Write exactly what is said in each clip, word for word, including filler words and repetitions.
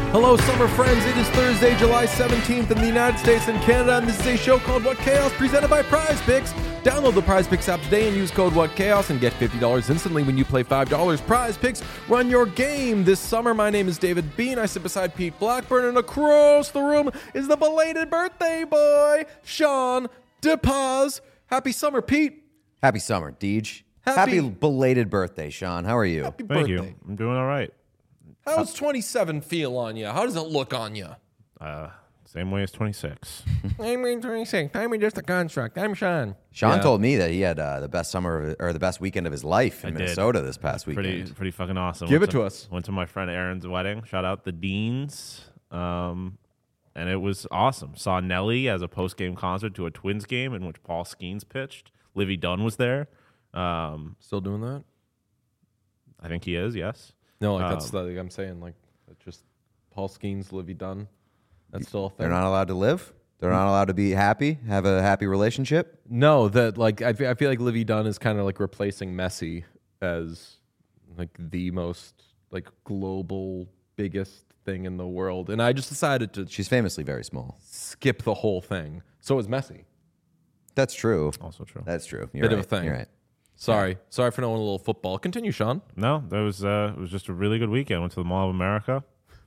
Hello, summer friends. It is Thursday, July seventeenth in the United States and Canada, and this is a show called What Chaos, presented by Prize Picks. Download the Prize Picks app today and use code What Chaos and get fifty dollars instantly when you play five dollars. Prize Picks, run your game this summer. My name is David Bean. I sit beside Pete Blackburn, and across the room is the belated birthday boy, Sean DePaz. Happy summer, Pete. Happy summer, Deej. Happy- Happy belated birthday, Sean. How are you? Happy Thank birthday. you. I'm doing all right. How's twenty-seven feel on you? How does it look on you? Uh, same way as twenty-six. I'm twenty-six. I'm just a construct. I'm Sean. Sean Yeah. told me that he had uh, the best summer of, or the best weekend of his life in I did. Minnesota this past weekend. Pretty, pretty fucking awesome. Give Went it to us. Went to my friend Aaron's wedding. Shout out the Deans. Um, and it was awesome. Saw Nelly as a post-game concert to a Twins game in which Paul Skeens pitched. Livy Dunn was there. Um, Still doing that? I think he is, yes. No, like that's Um, like I'm saying, like it's just Paul Skeens, Livy Dunn. That's still a thing. They're not allowed to live. They're not allowed to be happy, have a happy relationship. No, that like I feel, I feel like Livy Dunn is kind of like replacing Messi as like the most like global biggest thing in the world, and I just decided to She's famously very small. skip the whole thing. So is Messi. That's true. Also true. That's true. You're Bit right. of a thing. You're right. Sorry, sorry for knowing a little football. Continue, Sean. No, that was uh, it was just a really good weekend. Went to the Mall of America.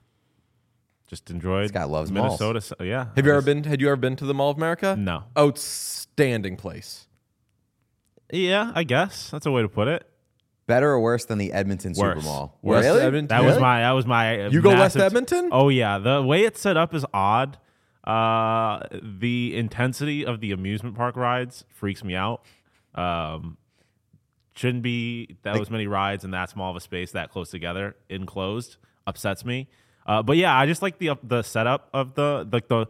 Just enjoyed This guy loves Minnesota. So, yeah. Have you I ever just- been? Had you ever been to the Mall of America? No. Outstanding place. Yeah, I guess that's a way to put it. Better or worse than the Edmonton Worse. Super Mall? Worse. Really? Edmonton? That was Really? my. That was my. uh, You go West massive- Edmonton? Oh yeah, the way it's set up is odd. Uh, the intensity of the amusement park rides freaks me out. Um, shouldn't be that was many rides in that small of a space that close together, enclosed. Upsets me. Uh, but yeah, I just like the the setup of the like the.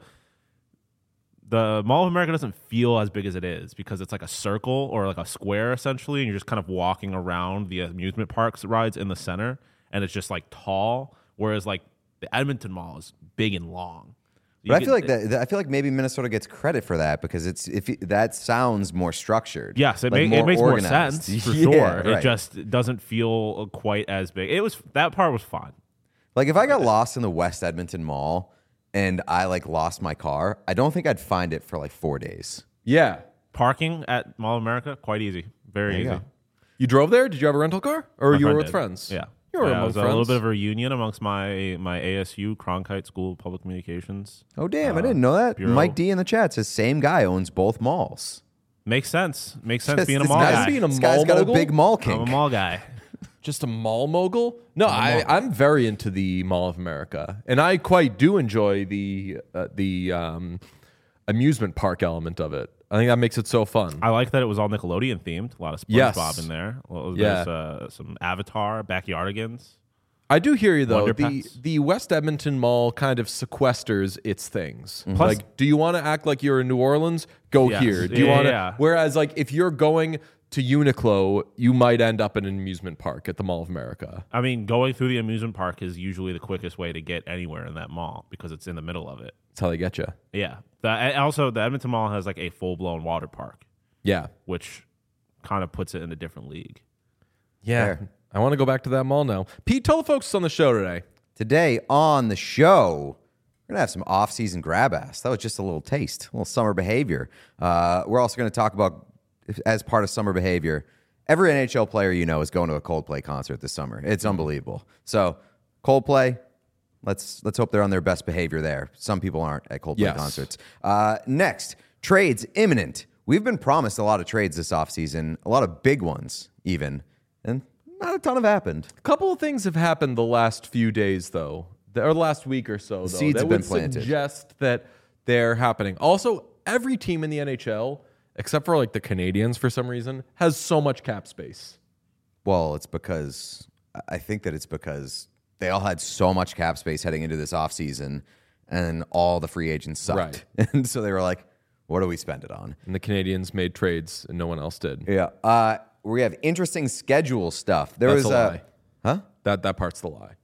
The Mall of America doesn't feel as big as it is because it's like a circle or like a square essentially, and you're just kind of walking around the amusement parks rides in the center, and it's just like tall. Whereas like the Edmonton Mall is big and long. You But I can- feel like that. that- I feel like maybe Minnesota gets credit for that because it's if it, that sounds more structured. Yes, it, like ma- it makes more organized. sense for Yeah, sure. It right. just doesn't feel quite as big. It was that part was fun. Like if I got lost in the West Edmonton Mall and I like lost my car, I don't think I'd find it for like four days. Yeah. Parking at Mall of America quite easy, very There you easy. go. You drove there? Did you have a rental car, or My you were friend with did. friends? Yeah. You were yeah, it among was friends. a little bit of a reunion amongst my my A S U Cronkite School of Public Communications. Oh damn! I Uh, didn't know that. Bureau. Mike D in the chat says same guy owns both malls. Makes sense. Makes sense Just- being a this mall guy's guy. being a This mall guy's got mogul? a big mall I'm a kink. mall guy. Just a mall mogul? No, I'm a I, mall. I'm very into the Mall of America, and I quite do enjoy the uh, the um, amusement park element of it. I think that makes it so fun. I like that it was all Nickelodeon themed. A lot of SpongeBob Yes. in there. Well, Yeah. There's uh, some Avatar, Backyardigans. I do hear you though. Wonder The Pets. the West Edmonton Mall kind of sequesters its things. Plus- like, do you want to act like you're in New Orleans? Go Yes. here. Do you Yeah, want to? yeah. Whereas, like, if you're going to Uniqlo, you might end up in an amusement park at the Mall of America. I mean, going through the amusement park is usually the quickest way to get anywhere in that mall because it's in the middle of it. That's how they get you. Yeah. The, and also, the Edmonton Mall has like a full blown water park, Yeah. which kind of puts it in a different league. Yeah. Fair. I want to go back to that mall now. Pete, tell the folks on the show today. Today on the show, we're gonna have some off-season grab ass. That was just a little taste, a little summer behavior. Uh, we're also gonna talk about, as part of summer behavior, every N H L player you know is going to a Coldplay concert this summer. It's unbelievable. So Coldplay, let's let's hope they're on their best behavior there. Some people aren't at Coldplay Yes. concerts. Uh, next, trades imminent. We've been promised a lot of trades this offseason, a lot of big ones even, and not a ton have happened. A couple of things have happened the last few days, though, or the last week or so, though, seeds that have been would planted. suggest that they're happening. Also, every team in the N H L, except for like the Canadians for some reason, has so much cap space. Well, it's because I think that it's because they all had so much cap space heading into this offseason, and all the free agents sucked. And so they were like, what do we spend it on? And the Canadians made trades and no one else did. Yeah. Uh, we have interesting schedule stuff. There That's was a a lie. Huh? That that part's the lie.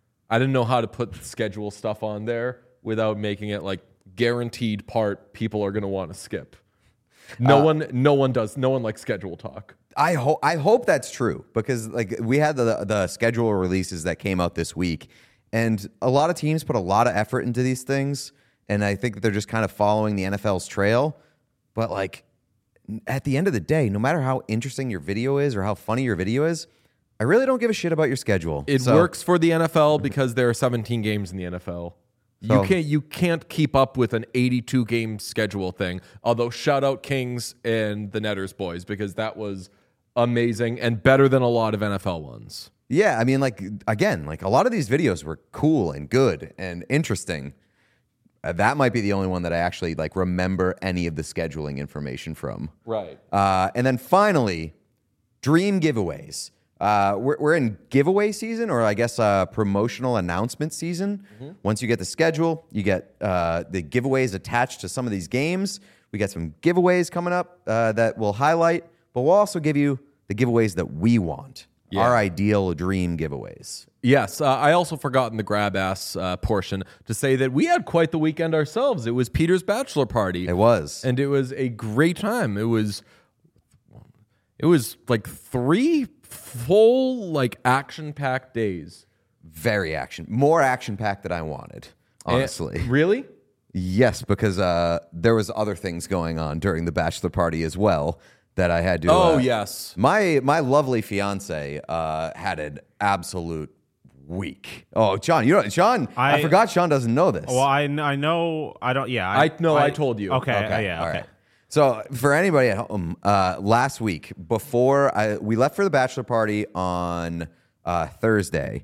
I didn't know how to put schedule stuff on there without making it like guaranteed part people are going to want to skip. No Uh, one no one does. No one likes schedule talk. I hope I hope that's true because like we had the the schedule releases that came out this week, And a lot of teams put a lot of effort into these things, and I think that they're just kind of following the N F L's trail. But like at the end of the day, no matter how interesting your video is or how funny your video is, I really don't give a shit about your schedule. It So- works for the N F L because there are seventeen games in the N F L. So- you can't you can't keep up with an eighty-two game schedule thing. Although shout out Kings and the Netters boys because that was amazing and better than a lot of N F L ones. Yeah, I mean, like, again, like a lot of these videos were cool and good and interesting. Uh, that might be the only one that I actually like remember any of the scheduling information from. Right. Uh, and then finally, dream giveaways. Uh, we're, we're in giveaway season, or I guess uh, promotional announcement season. Mm-hmm. Once you get the schedule, you get uh, the giveaways attached to some of these games. We got some giveaways coming up uh, that we'll highlight, but we'll also give you the giveaways that we want. Yeah. Our ideal dream giveaways. Yes, uh, I also forgot in the grab ass uh, portion to say that we had quite the weekend ourselves. It was Peter's bachelor party. It was. And it was a great time. It was it was like three full like action-packed days. Very action. More action-packed than I wanted, honestly. And- really? Yes, because uh, there was other things going on during the bachelor party as well that I had to. Oh, uh, yes. My my lovely fiance uh, had an absolute week. Oh, John, you know, Sean, I, I- forgot Sean doesn't know this. Well, I, kn- I know I don't. Yeah, I no, I, told you. Okay, Okay, uh, yeah, all okay. right. So for anybody at home, uh, last week before I we left for the bachelor party on uh, Thursday,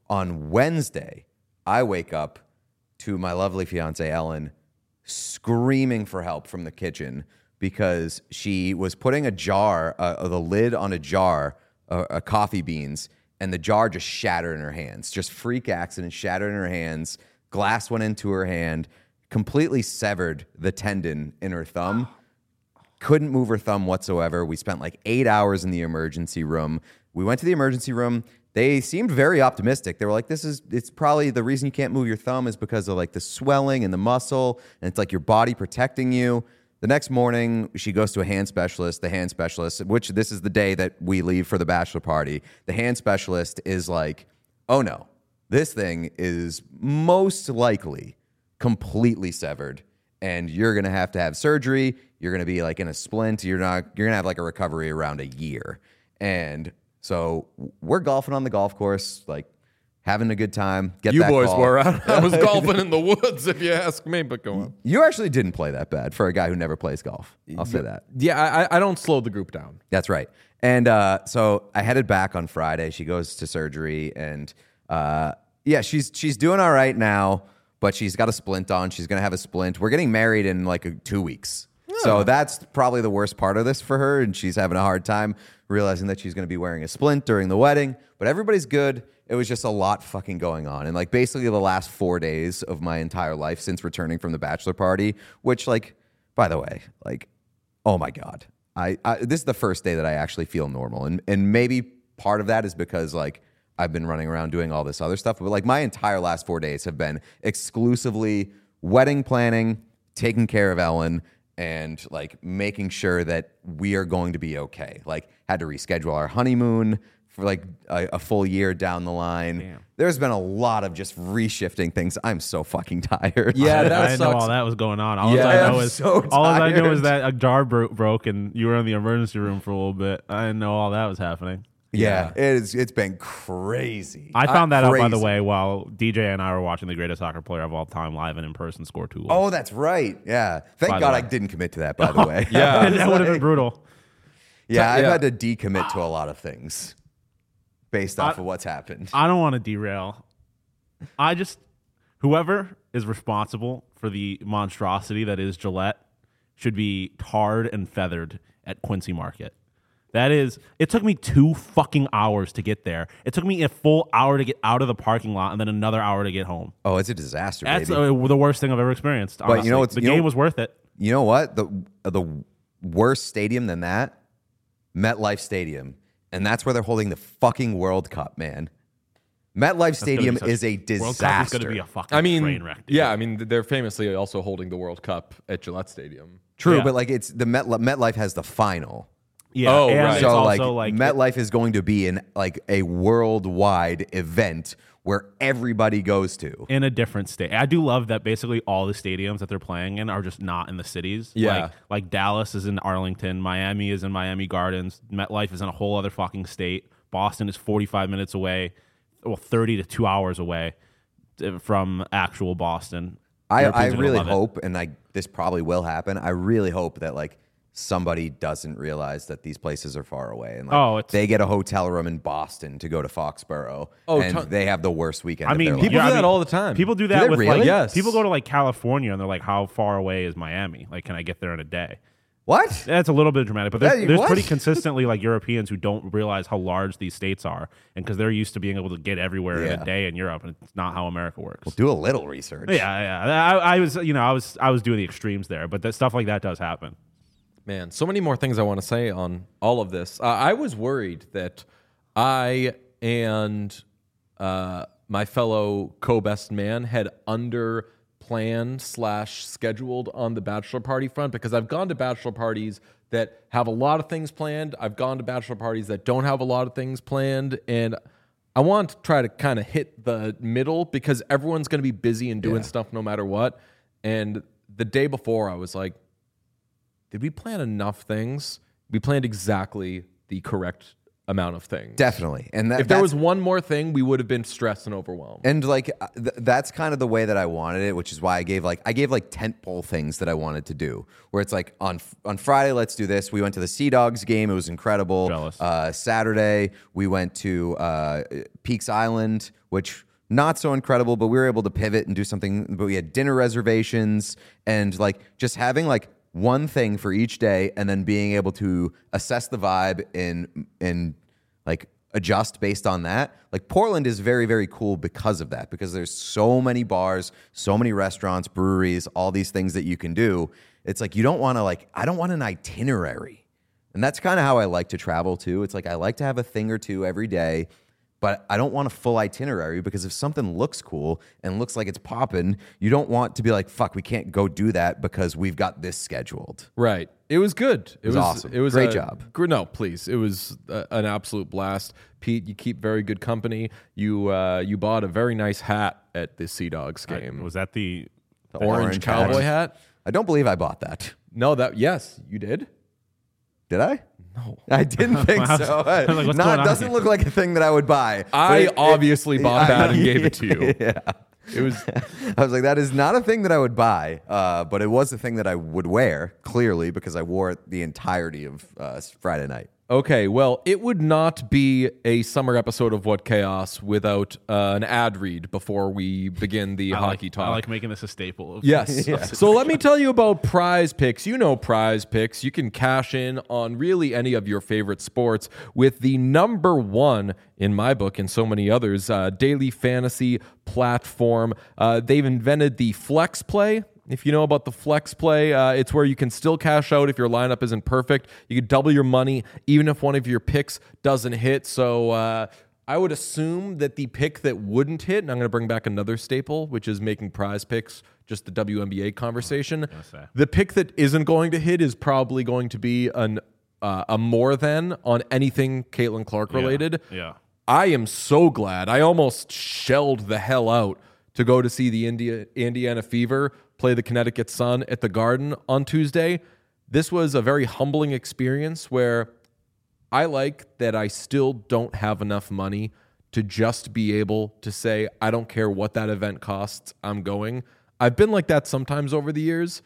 on Wednesday, I wake up to my lovely fiance Ellen screaming for help from the kitchen because she was putting a jar, uh, the lid on a jar, uh, uh, coffee beans, and the jar just shattered in her hands. Just freak accident, shattered in her hands. Glass went into her hand, completely severed the tendon in her thumb. Couldn't move her thumb whatsoever. We spent like eight hours in the emergency room. We went to the emergency room. They seemed very optimistic. They were like, this is, it's probably the reason you can't move your thumb is because of like the swelling and the muscle, and it's like your body protecting you. The next morning, she goes to a hand specialist. The hand specialist, which this is the day that we leave for the bachelor party, the hand specialist is like, oh no, this thing is most likely completely severed, and you're gonna have to have surgery. You're gonna be like in a splint. You're not. You're gonna have like a recovery around a year. And so we're golfing on the golf course, like having a good time. Get You that boys call. were. I, I was golfing in the woods, if you ask me. But go on. You actually didn't play that bad for a guy who never plays golf. I'll say that. Yeah, I, I don't slow the group down. That's right. And uh, so I headed back on Friday. She goes to surgery, and uh, yeah, she's she's doing all right now, but she's got a splint on. She's gonna have a splint. We're getting married in like a, two weeks. So that's probably the worst part of this for her, and she's having a hard time realizing that she's going to be wearing a splint during the wedding. But everybody's good. It was just a lot fucking going on. And like basically the last four days of my entire life since returning from the bachelor party, which like, by the way, like, oh my God. I, I this is the first day that I actually feel normal. And and maybe part of that is because like I've been running around doing all this other stuff. But like my entire last four days have been exclusively wedding planning, taking care of Ellen, and like making sure that we are going to be okay. Like had to reschedule our honeymoon for like a, a full year down the line. Damn. There's been a lot of just reshifting things. I'm so fucking tired. Yeah, I, that I didn't know sucks. all that was going on. All Yeah, I know I'm is so all I know tired. is that a jar bro- broke and you were in the emergency room for a little bit. I didn't know all that was happening. Yeah, it is, it's been crazy. I found that out, by the Crazy. way, while D J and I were watching the greatest soccer player of all time live and in person score two goals. Oh, that's right. Yeah. Thank By the God way. I didn't commit to that, by the way. Yeah. And that would have been brutal. Yeah, I've Yeah. had to decommit to a lot of things based off I- of what's happened. I don't want to derail. I just, whoever is responsible for the monstrosity that is Gillette should be tarred and feathered at Quincy Market. That is, it took me two fucking hours to get there. It took me a full hour to get out of the parking lot and then another hour to get home. Oh, it's a disaster, That's baby. uh, the worst thing I've ever experienced. But you honestly. know what's- the you know- game was worth it. You know what? The the worst stadium than that? MetLife Stadium. And that's where they're holding the fucking World Cup, man. MetLife Stadium That's gonna be is a such- World Cup is disaster. going to be a fucking I mean, train wreck. Dude. yeah, I mean, they're famously also holding the World Cup at Gillette Stadium. True, Yeah. but like it's the Met, MetLife has the final. Yeah. Oh, and right. it's So also like, like, MetLife is going to be in like a worldwide event where everybody goes to. in a different state. I do love that basically all the stadiums that they're playing in are just not in the cities. Yeah. Like, like Dallas is in Arlington, Miami is in Miami Gardens, MetLife is in a whole other fucking state. Boston is forty-five minutes away, well, thirty to two hours away from actual Boston. I, I Europeans are gonna really love it. hope, and I this probably will happen. I really hope that like somebody doesn't realize that these places are far away, and like Oh, it's- they get a hotel room in Boston to go to Foxborough, Oh, and ton- they have the worst weekend. I of mean, their People life. yeah, do I that mean, all the time. People do Do that they with really? like Yes. people go to like California and they're like, how far away is Miami? Like, can I get there in a day? What? That's a little bit dramatic, but there's, Yeah, there's what? pretty consistently like Europeans who don't realize how large these states are, and because they're used to being able to get everywhere in Yeah. a day in Europe, and it's not how America works. Do a little research. Yeah, yeah. I, I was, you know, I was, I was doing the extremes there, but that stuff like that does happen. Man, so many more things I want to say on all of this. Uh, I was worried that I and uh, my fellow co-best man had under planned slash scheduled on the bachelor party front, because I've gone to bachelor parties that have a lot of things planned. I've gone to bachelor parties that don't have a lot of things planned, and I want to try to kind of hit the middle because everyone's going to be busy and doing Yeah. stuff no matter what. And the day before, I was like, did we plan enough things? We planned exactly the correct amount of things. Definitely. And that, If there that's- was one more thing, we would have been stressed and overwhelmed. And like uh, th- that's kind of the way that I wanted it, which is why I gave like I gave like tentpole things that I wanted to do. Where it's like on on Friday, let's do this. We went to the Sea Dogs game; it was incredible. Jealous. Uh, Saturday, we went to uh, Peaks Island, which not so incredible, but we were able to pivot and do something. But we had dinner reservations and like just having like one thing for each day, and then being able to assess the vibe and and like adjust based on that. Like Portland is very, very cool because of that, because there's so many bars, so many restaurants, breweries, all these things that you can do. It's like you don't want to like, I don't want an itinerary. And that's kind of how I like to travel too. It's like I like to have a thing or two every day, but I don't want a full itinerary, because if something looks cool and looks like it's popping, you don't want to be like, fuck, we can't go do that because we've got this scheduled. Right. It was good. It, was awesome. It was Great a- job. gr- No, please. It was uh, an absolute blast. Pete, you keep very good company. You uh, you bought a very nice hat at the Sea Dogs game. Was that the the orange, orange cowboy hat. hat? I don't believe I bought that. No, that yes, you did. Did I? No. I didn't think I was- so. I was like, what's Not, going on doesn't here? look like a thing that I would buy. But I it- it- obviously bought I- that and gave it to you. Yeah. It was I was like, that is not a thing that I would buy, uh, but it was a thing that I would wear, clearly, because I wore it the entirety of uh, Friday night. okay. Well, it would not be a summer episode of What Chaos without uh, an ad read before we begin the I hockey like, talk. I like making this a staple. Of Yes. So let me tell you about Prize Picks. You know Prize Picks. You can cash in on really any of your favorite sports with the number one, in my book and so many others, uh, daily fantasy platform. Uh, they've invented the Flex Play. If you know about the Flex Play, uh, it's where you can still cash out if your lineup isn't perfect. You can double your money even if one of your picks doesn't hit. So uh, I would assume that the pick that wouldn't hit, and I'm going to bring back another staple, which is making Prize Picks just the W N B A conversation. say. The pick that isn't going to hit is probably going to be an uh, a more than on anything Caitlin Clark related. Yeah. I am so glad. I almost shelled the hell out to go to see the India, Indiana Fever play the Connecticut Sun at the Garden on Tuesday. This was a very humbling experience where I like that I still don't have enough money to just be able to say, I don't care what that event costs, I'm going. I've been like that sometimes over the years,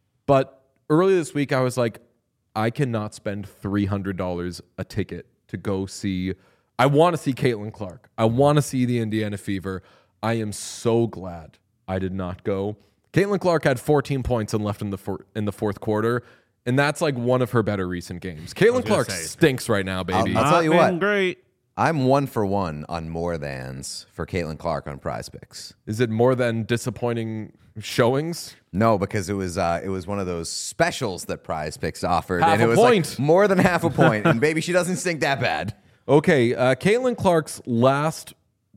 but earlier this week I was like, I cannot spend three hundred dollars a ticket to go see. I want to see Caitlin Clark. I want to see the Indiana Fever. I am so glad I did not go. Caitlin Clark had fourteen points and left in the for, in the fourth quarter, and that's like one of her better recent games. Caitlin Clark say. stinks right now, baby. I'll tell you Not been what. Great. I'm one for one on more thans for Caitlin Clark on Prize Picks. Is it more than disappointing showings? No, because it was uh, it was one of those specials that Prize Picks offered, Half and it a was point. like more than half a point. And baby, she doesn't stink that bad. Okay, uh, Caitlin Clark's last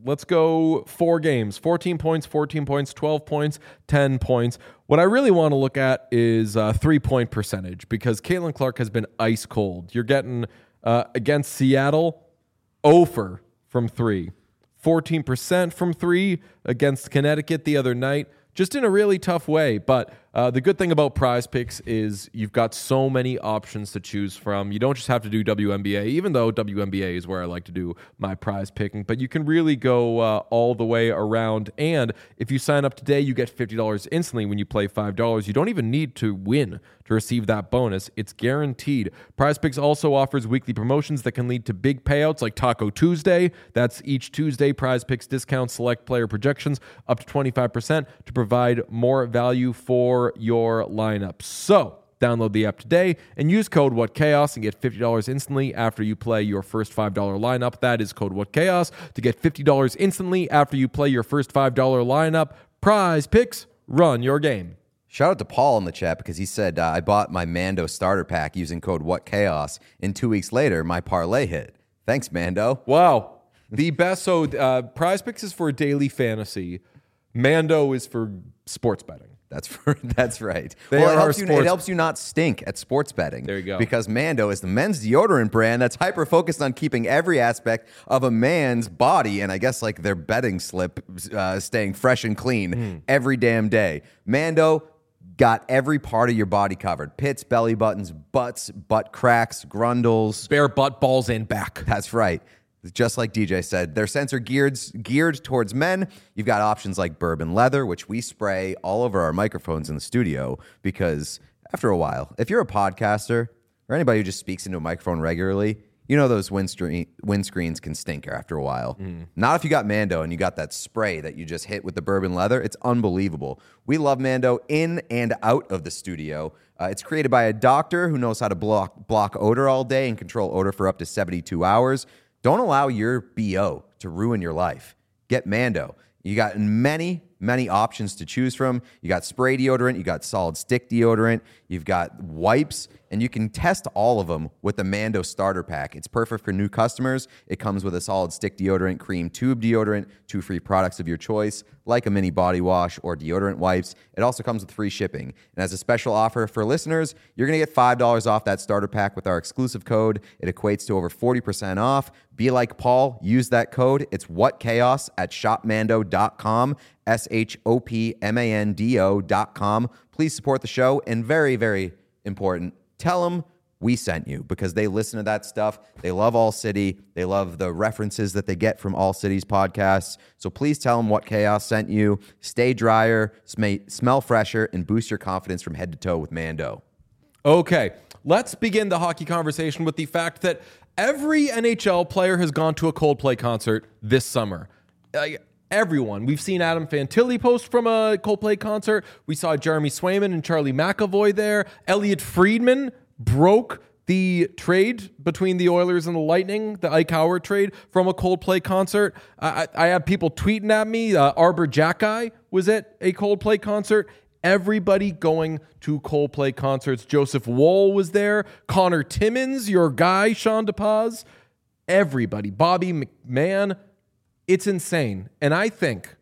let's go four games, fourteen points, fourteen points, twelve points, ten points. What I really want to look at is uh, three-point percentage because Caitlin Clark has been ice cold. You're getting uh, against Seattle, zero for from three, fourteen percent from three against Connecticut the other night. Just in a really tough way. But uh, the good thing about Prize Picks is you've got so many options to choose from. You don't just have to do W N B A, even though W N B A is where I like to do my prize picking. But you can really go uh, all the way around. And if you sign up today, you get fifty dollars instantly when you play five dollars. You don't even need to win to receive that bonus. It's guaranteed. Prize Picks also offers weekly promotions that can lead to big payouts like Taco Tuesday. That's each Tuesday. Prize Picks discounts select player projections up to twenty-five percent to provide more value for your lineup. So download the app today and use code WhatChaos and get fifty dollars instantly after you play your first five dollars lineup. That is code WhatChaos to get fifty dollars instantly after you play your first five dollars lineup. Prize Picks, run your game. Shout out to Paul in the chat because he said, uh, I bought my Mando starter pack using code WhatChaos, and two weeks later, my parlay hit. Thanks, Mando. Wow. The best. So uh, Prize Picks is for daily fantasy. Mando is for sports betting. That's for, that's right. They well, it are helps, you, sports- it helps you not stink at sports betting. There you go. Because Mando is the men's deodorant brand that's hyper-focused on keeping every aspect of a man's body, and I guess like their betting slip, uh, staying fresh and clean mm. every damn day. Mando got every part of your body covered. Pits, belly buttons, butts, butt cracks, grundles. Bare butt, balls, and back. That's right. Just like D J said, their scents are geared, geared towards men. You've got options like bourbon leather, which we spray all over our microphones in the studio because after a while, if you're a podcaster or anybody who just speaks into a microphone regularly, you know those windscreen, windscreens can stink after a while. Mm. Not if you got Mando and you got that spray that you just hit with the bourbon leather. It's unbelievable. We love Mando in and out of the studio. Uh, it's created by a doctor who knows how to block, block odor all day and control odor for up to seventy-two hours. Don't allow your B O to ruin your life. Get Mando. You got many, many options to choose from. You got spray deodorant, you got solid stick deodorant, you've got wipes, and you can test all of them with the Mando starter pack. It's perfect for new customers. It comes with a solid stick deodorant, cream tube deodorant, two free products of your choice, like a mini body wash or deodorant wipes. It also comes with free shipping. And as a special offer for listeners, you're going to get five dollars off that starter pack with our exclusive code. It equates to over forty percent off. Be like Paul. Use that code. It's WhatChaos at shop mando dot com, S H O P M A N D O dot com. Please support the show. And very, very important, tell them we sent you because they listen to that stuff. They love All City. They love the references that they get from All City's podcasts. So please tell them WhatChaos sent you. Stay drier, sm- smell fresher, and boost your confidence from head to toe with Mando. Okay, let's begin the hockey conversation with the fact that every N H L player has gone to a Coldplay concert this summer. Uh, Everyone. We've seen Adam Fantilli post from a Coldplay concert. We saw Jeremy Swayman and Charlie McAvoy there. Elliot Friedman broke the trade between the Oilers and the Lightning, the Ike Howard trade, from a Coldplay concert. I, I have people tweeting at me. Uh, Arbor Jacki was at a Coldplay concert. Everybody going to Coldplay concerts. Joseph Woll was there. Connor Timmins, your guy, Sean DePaz. Everybody. Bobby McMahon. It's insane. And I think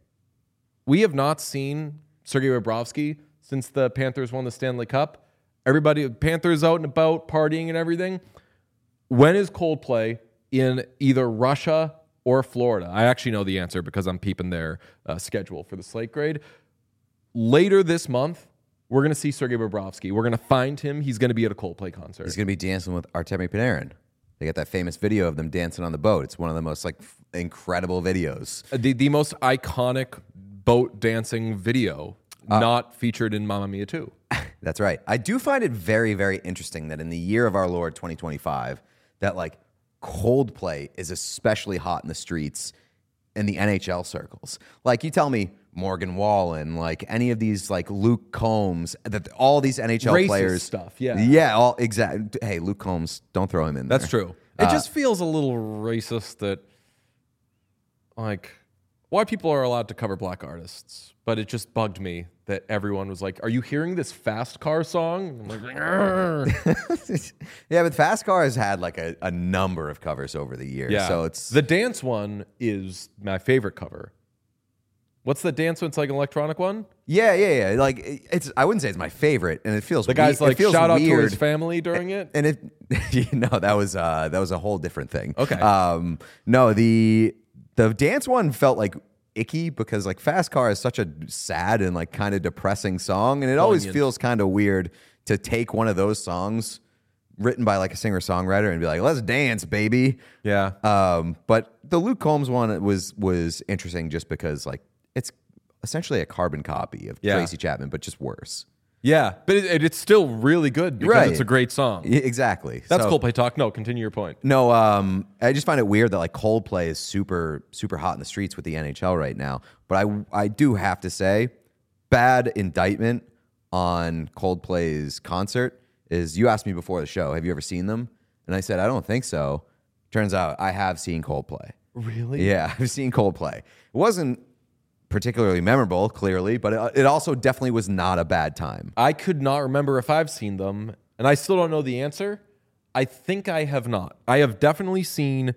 we have not seen Sergei Bobrovsky since the Panthers won the Stanley Cup. Everybody, Panthers out and about, partying and everything. When is Coldplay in either Russia or Florida? I actually know the answer because I'm peeping their uh, schedule for the slate grade. Later this month, we're going to see Sergei Bobrovsky. We're going to find him. He's going to be at a Coldplay concert. He's going to be dancing with Artemi Panarin. They got that famous video of them dancing on the boat. It's one of the most like f- incredible videos. The the most iconic boat dancing video, uh, not featured in Mamma Mia two. That's right. I do find it very, very interesting that in the year of our Lord twenty twenty-five, that like Coldplay is especially hot in the streets in the N H L circles. Like you tell me Morgan Wallen, like any of these like Luke Combs, that all these N H L Racist players stuff, yeah. Yeah, all exactly. Hey, Luke Combs, don't throw him in there. That's true. It Uh, just feels a little racist that like why people are allowed to cover black artists, but it just bugged me that everyone was like, "Are you hearing this Fast Car song?" I'm like, "Grr." Yeah, but Fast Car has had like a, a number of covers over the years. yeah. So it's The dance one is my favorite cover. What's the dance one? It's like an electronic one. yeah, yeah, yeah. Like it- it's I wouldn't say it's my favorite, and it feels The guy's we- it like, feels shout out weird. to his family during it. And it, you know, that was uh, that was a whole different thing. Okay. Um, no, the the dance one felt like icky because like Fast Car is such a sad and like kind of depressing song, and it always Poignant. feels kind of weird to take one of those songs written by like a singer songwriter and be like, let's dance, baby. Yeah. Um, but the Luke Combs one was was interesting just because like it's essentially a carbon copy of Yeah. Tracy Chapman, but just worse. Yeah, but it, it, it's still really good because Right. it's a great song. Y- Exactly. That's So- Coldplay talk. No, continue your point. No, um, I just find it weird that like Coldplay is super, super hot in the streets with the N H L right now. But I, I do have to say, bad indictment on Coldplay's concert is you asked me before the show, have you ever seen them? And I said, I don't think so. Turns out I have seen Coldplay. Really? Yeah, I've seen Coldplay. It wasn't particularly memorable, clearly, but it, it also definitely was not a bad time. I could not remember if I've seen them, and I still don't know the answer. I think I have not. I have definitely seen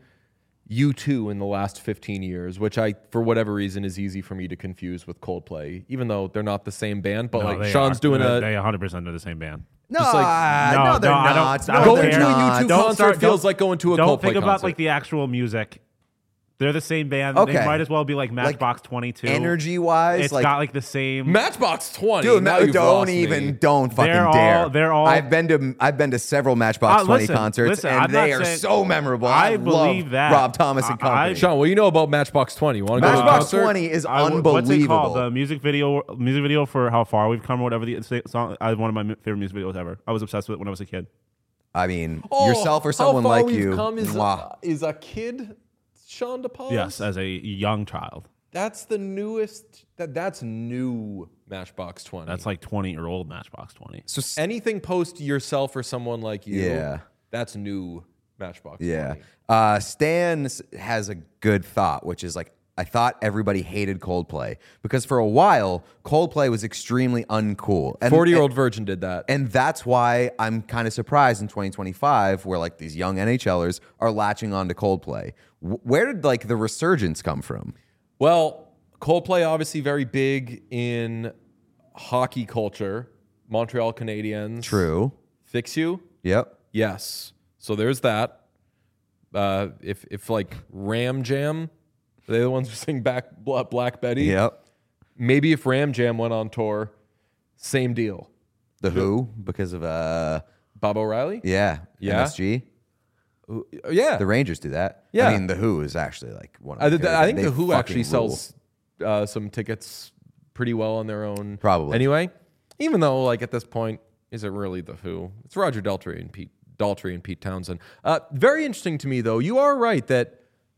U two in the last fifteen years, which I, for whatever reason, is easy for me to confuse with Coldplay, even though they're not the same band. But No, like they Sean's are. doing They- a They one hundred percent are the same band. No, Just like- uh, no, they're no, I don't- not. I No, don't going they're to a not. U two Don't concert start- feels don't- like going to a Don't Coldplay think about concert. like the actual music. They're the same band. Okay. They might as well be like Matchbox twenty-two. Energy wise, It's like got like the same. Matchbox twenty. dude, now no, you've don't lost even, me. don't fucking They're all- dare. they're all- I've been to, I've been to several Matchbox Uh, twenty listen, concerts, listen, and I'm not they are saying- so memorable. I I, believe love that. Rob Thomas and I- I- company. Sean, what do you know about Matchbox twenty? You want to go to a Matchbox concert? twenty is I would- unbelievable. What's it called? The music video, music video for How Far We've Come, or whatever the song. I one of my favorite music videos ever. I was obsessed with it when I was a kid. I mean, Oh, yourself or How someone Far like We've you. Come is, Mwah. a, is a kid, Sean DePaul. Yes, as a young child. That's the newest. That that's new Matchbox twenty. That's like twenty year old Matchbox twenty. So s- anything post yourself or someone like you. Yeah. That's new Matchbox. yeah. twenty. Uh, Stan s- has a good thought, which is like, I thought everybody hated Coldplay because for a while, Coldplay was extremely uncool. And, Forty year old virgin did that. And that's why I'm kind of surprised in twenty twenty-five where like these young NHLers are latching on to Coldplay. W- where did like the resurgence come from? Well, Coldplay obviously very big in hockey culture. Montreal Canadiens. True. Fix You. Yep. Yes. So there's that. Uh, if if like Ram Jam, they're the ones who sing back Bla- Black Betty. Yep. Maybe if Ram Jam went on tour, same deal. The Who because of uh Bob O'Reilly. yeah, Yeah? M S G. Yeah. The Rangers do that. Yeah. I mean, The Who is actually like one of I, my th- favorite I think bands. the They Who actually fucking rule. sells uh, some tickets pretty well on their own. Probably. Anyway, even though like at this point, is it really the Who? It's Roger Daltrey and Pete Daltrey and Pete Townsend. Uh, very interesting to me though. You are right that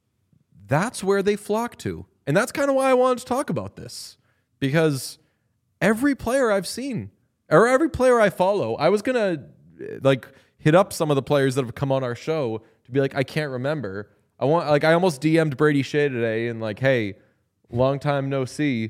that's where they flock to, and that's kind of why I wanted to talk about this because every player I've seen or every player I follow, I was gonna uh, like hit up some of the players that have come on our show to be like, I can't remember. I want like I almost D M'd Brady Shea today and like, hey, long time no see.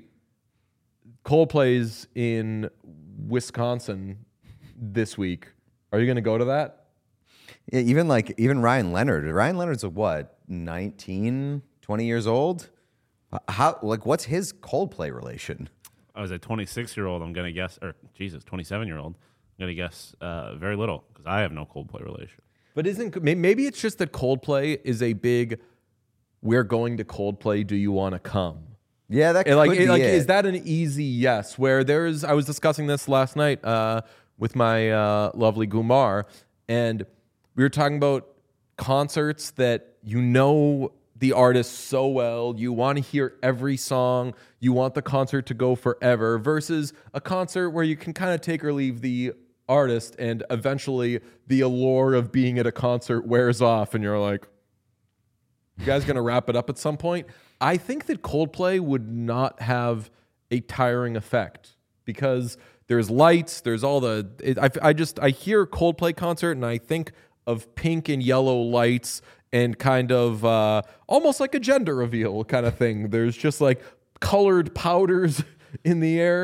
Coldplay's in Wisconsin this week. Are you gonna go to that? Yeah, even like even Ryan Leonard. Ryan Leonard's a what, nineteen, twenty years old? How like what's his Coldplay relation? I was a twenty-six year old. I'm gonna guess, or Jesus, twenty-seven year old. I'm gonna guess uh, very little because I have no Coldplay relation. But isn't may- maybe it's just that Coldplay is a big we're going to Coldplay, do you want to come? Yeah, that And like could it- be like it. is that an easy yes where there's I was discussing this last night uh, with my uh, lovely Gumar and we were talking about concerts that you know the artist so well, you want to hear every song, you want the concert to go forever versus a concert where you can kind of take or leave the artist and eventually the allure of being at a concert wears off and you're like, you guys going to wrap it up at some point? I think that Coldplay would not have a tiring effect because there's lights, there's all the it, I, I just I hear Coldplay concert and I think of pink and yellow lights and kind of uh, almost like a gender reveal kind of thing. There's just like colored powders in the air.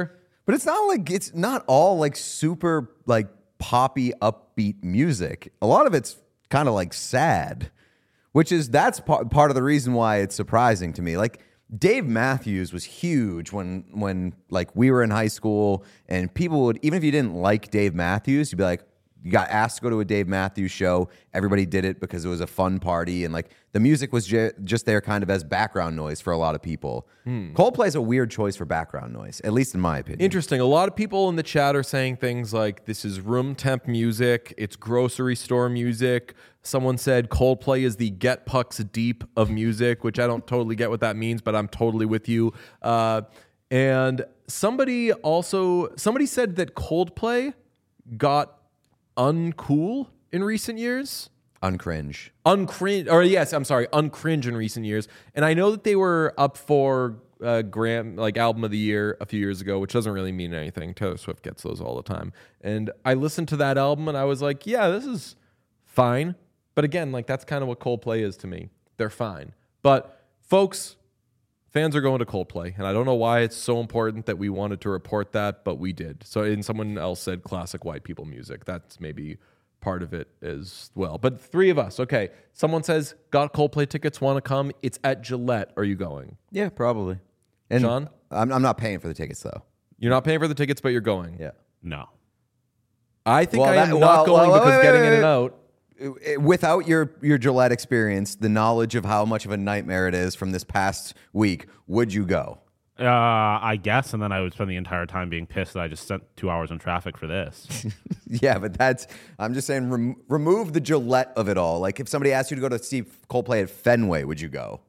But it's not like it's not all like super like poppy upbeat music. A lot of it's kind of like sad, which is that's part part of the reason why it's surprising to me. Like Dave Matthews was huge when when like we were in high school, and people would, even if you didn't like Dave Matthews, you'd be like, you got asked to go to a Dave Matthews show. Everybody did it because it was a fun party, and like the music was ju- just there kind of as background noise for a lot of people. Hmm. Coldplay is a weird choice for background noise, at least in my opinion. Interesting. A lot of people in the chat are saying things like, this is room temp music, it's grocery store music. Someone said Coldplay is the Get Pucks Deep of music, which I don't totally get what that means, but I'm totally with you. Uh, and somebody also, somebody said that Coldplay got uncool in recent years. Uncringe. Uncringe, or yes, I'm sorry, uncringe in recent years. And I know that they were up for uh, Gram, like album of the year a few years ago, which doesn't really mean anything. Taylor Swift gets those all the time. And I listened to that album and I was like, yeah, this is fine. But again, like that's kind of what Coldplay is to me. They're fine. But folks, fans are going to Coldplay, and I don't know why it's so important that we wanted to report that, but we did. So, and someone else said classic white people music. That's maybe part of it as well. But three of us, okay. Someone says, got Coldplay tickets, want to come. It's at Gillette. Are you going? Yeah, probably. And Sean? I'm, I'm not paying for the tickets, though. You're not paying for the tickets, but you're going. Yeah. No. I think Well, I that- am well, not going well, because wait, getting wait, in and wait. out. Without your, your Gillette experience, the knowledge of how much of a nightmare it is from this past week, would you go? Uh, I guess, and then I would spend the entire time being pissed that I just spent two hours in traffic for this. Yeah, but that's, I'm just saying, rem- remove the Gillette of it all. Like, if somebody asked you to go to see Coldplay at Fenway, would you go?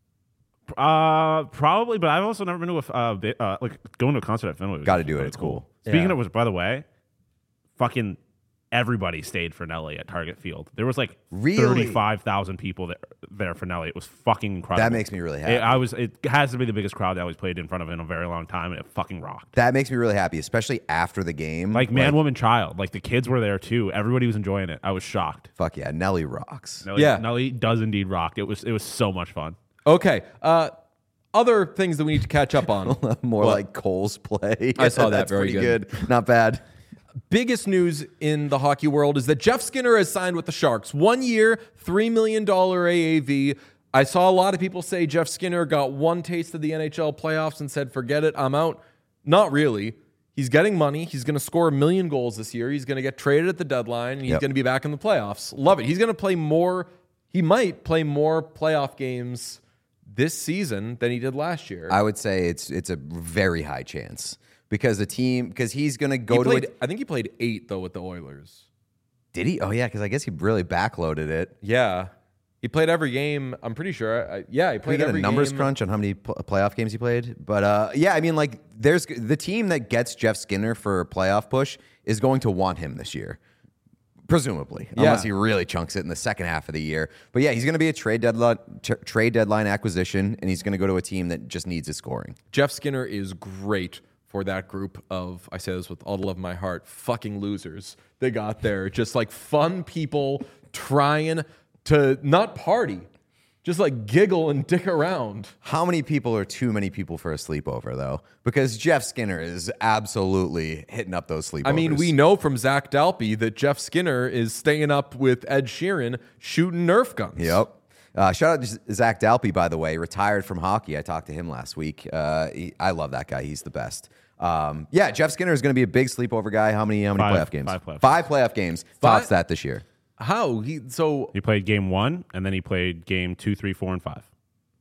Uh, probably, but I've also never been to a uh, bi- uh like going to a concert at Fenway. was Gotta do it, really it's cool. Speaking Yeah. of which, by the way, fucking everybody stayed for Nelly at Target Field. There was like Really? thirty-five thousand people there, there for Nelly. It was fucking incredible. That makes me really happy. It, I was. It has to be the biggest crowd that I was played in front of in a very long time, and it fucking rocked. That makes me really happy, especially after the game. Like man, woman, child. Like the kids were there too. Everybody was enjoying it. I was shocked. Fuck yeah, Nelly rocks. Nelly, Yeah. Nelly does indeed rock. It was. It was so much fun. Okay. Uh, other things that we need to catch up on. More What? like Cole's play. I saw that. That's Very pretty good. good. Not bad. Biggest news in the hockey world is that Jeff Skinner has signed with the Sharks. One year, three million dollars A A V. I saw a lot of people say Jeff Skinner got one taste of the N H L playoffs and said, forget it, I'm out. Not really. He's getting money. He's going to score a million goals this year. He's going to get traded at the deadline, and he's Yep. going to be back in the playoffs. Love it. He's going to play more. He might play more playoff games this season than he did last year. I would say it's it's a very high chance because the team because he's going to go he to played, it. I think he played eight, though, with the Oilers. Did he? Oh yeah, because I guess he really backloaded it. Yeah. He played every game. I'm pretty sure. I, yeah, he Can we played get a every numbers game. crunch on how many pl- playoff games he played? But uh, yeah, I mean, like, there's the team that gets Jeff Skinner for a playoff push is going to want him this year, presumably, Yeah. unless he really chunks it in the second half of the year. But yeah, he's going to be a trade deadline t- trade deadline acquisition, and he's going to go to a team that just needs his scoring. Jeff Skinner is great for that group of, I say this with all the love of my heart, fucking losers they got there. Just like fun people trying to not party, just like giggle and dick around. How many people are too many people for a sleepover, though? Because Jeff Skinner is absolutely hitting up those sleepovers. I mean, we know from Zach Dalpe that Jeff Skinner is staying up with Ed Sheeran shooting Nerf guns. Yep. Uh, shout out to Zach Dalpe, by the way, retired from hockey. I talked to him last week. Uh, he, I love that guy. He's the best. Um, yeah, Jeff Skinner is going to be a big sleepover guy. How many? How many Five- playoff games? five playoff Five playoff games. Five? Tops that this year. How? He so He played game one, and then he played game two, three, four, and five.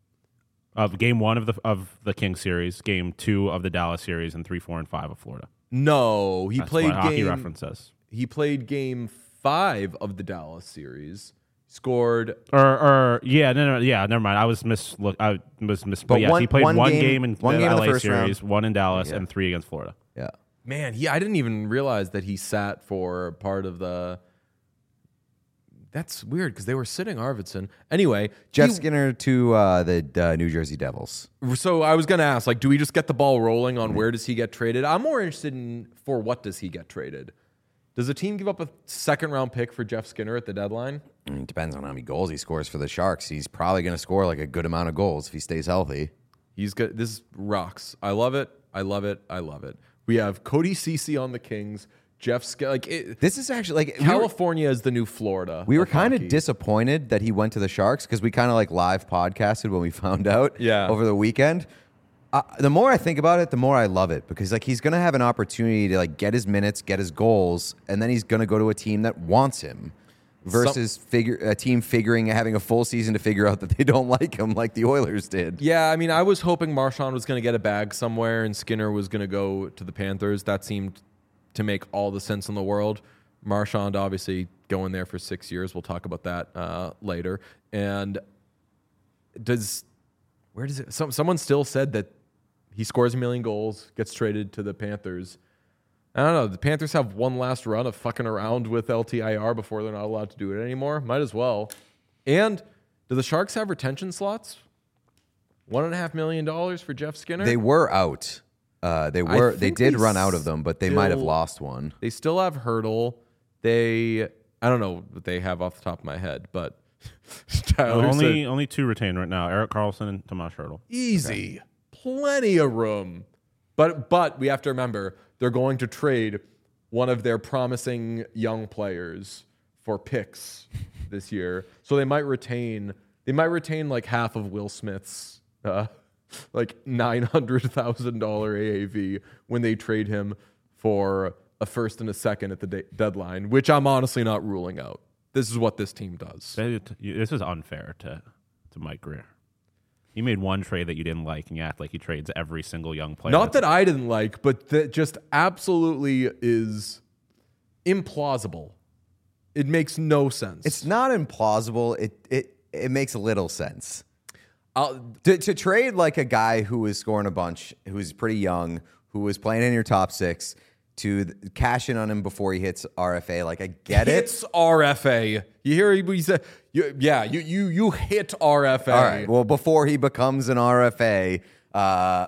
Of game one of the of the Kings series, game two of the Dallas series, and three, four, and five of Florida. no, he That's played what Hockey game Reference says. he played game five of the Dallas series. Scored Or, or yeah, no, no, yeah, never mind. I was mis look. I was mis. But, But yes, one- he played one one, game- game, in one the game in the L A first series, round. one in Dallas, Yeah. and three against Florida. Yeah. Man, he I didn't even realize that he sat for part of the. That's weird because they were sitting Arvidsson. Anyway, Jeff he- Skinner to uh, the uh, New Jersey Devils. So I was going to ask, like, do we just get the ball rolling on where does he get traded? I'm more interested in for what does he get traded? Does a team give up a second round pick for Jeff Skinner at the deadline? I mean, it depends on how many goals he scores for the Sharks. He's probably going to score like a good amount of goals if he stays healthy. He's good. This rocks. I love it. I love it. I love it. We have Cody Ceci on the Kings. Jeff Sk- like it, This is actually like California we were, is the new Florida. We were kind of disappointed that he went to the Sharks because we kind of like live podcasted when we found out yeah. over the weekend. Uh, the more I think about it, the more I love it because like he's going to have an opportunity to like get his minutes, get his goals, and then he's going to go to a team that wants him versus Some, figure a team figuring having a full season to figure out that they don't like him like the Oilers did. Yeah, I mean, I was hoping Marchand was going to get a bag somewhere and Skinner was going to go to the Panthers. That seemed to make all the sense in the world. Marchand obviously going there for six years. We'll talk about that uh, later. And does where does it? Some, someone still said that he scores a million goals, gets traded to the Panthers. I don't know. The Panthers have one last run of fucking around with L T I R before they're not allowed to do it anymore. Might as well. And do the Sharks have retention slots? One and a half million dollars for Jeff Skinner. They were out. Uh, they were. They did they run out of them, but they still, might have lost one. They still have Hurdle. They. I don't know what they have off the top of my head, but Tyler only said, only two retained right now: Erik Karlsson and Tomas Hurdle. Easy, okay. Plenty of room. But but we have to remember they're going to trade one of their promising young players for picks this year, so they might retain. They might retain like half of Will Smith's. Uh, like nine hundred thousand dollars A A V when they trade him for a first and a second at the de- deadline, which I'm honestly not ruling out. This is what this team does. This is unfair to, to Mike Grier. You made one trade that you didn't like, and you act like he trades every single young player. Not that I didn't like, but that just absolutely is implausible. It makes no sense. It's not implausible. It it it makes little sense. I'll, to, to trade like a guy who was scoring a bunch, who was pretty young, who was playing in your top six, to th- cash in on him before he hits R F A. Like I get it. Hits R F A. You hear he said, you, yeah, you you you hit R F A. All right. Well, before he becomes an R F A, uh,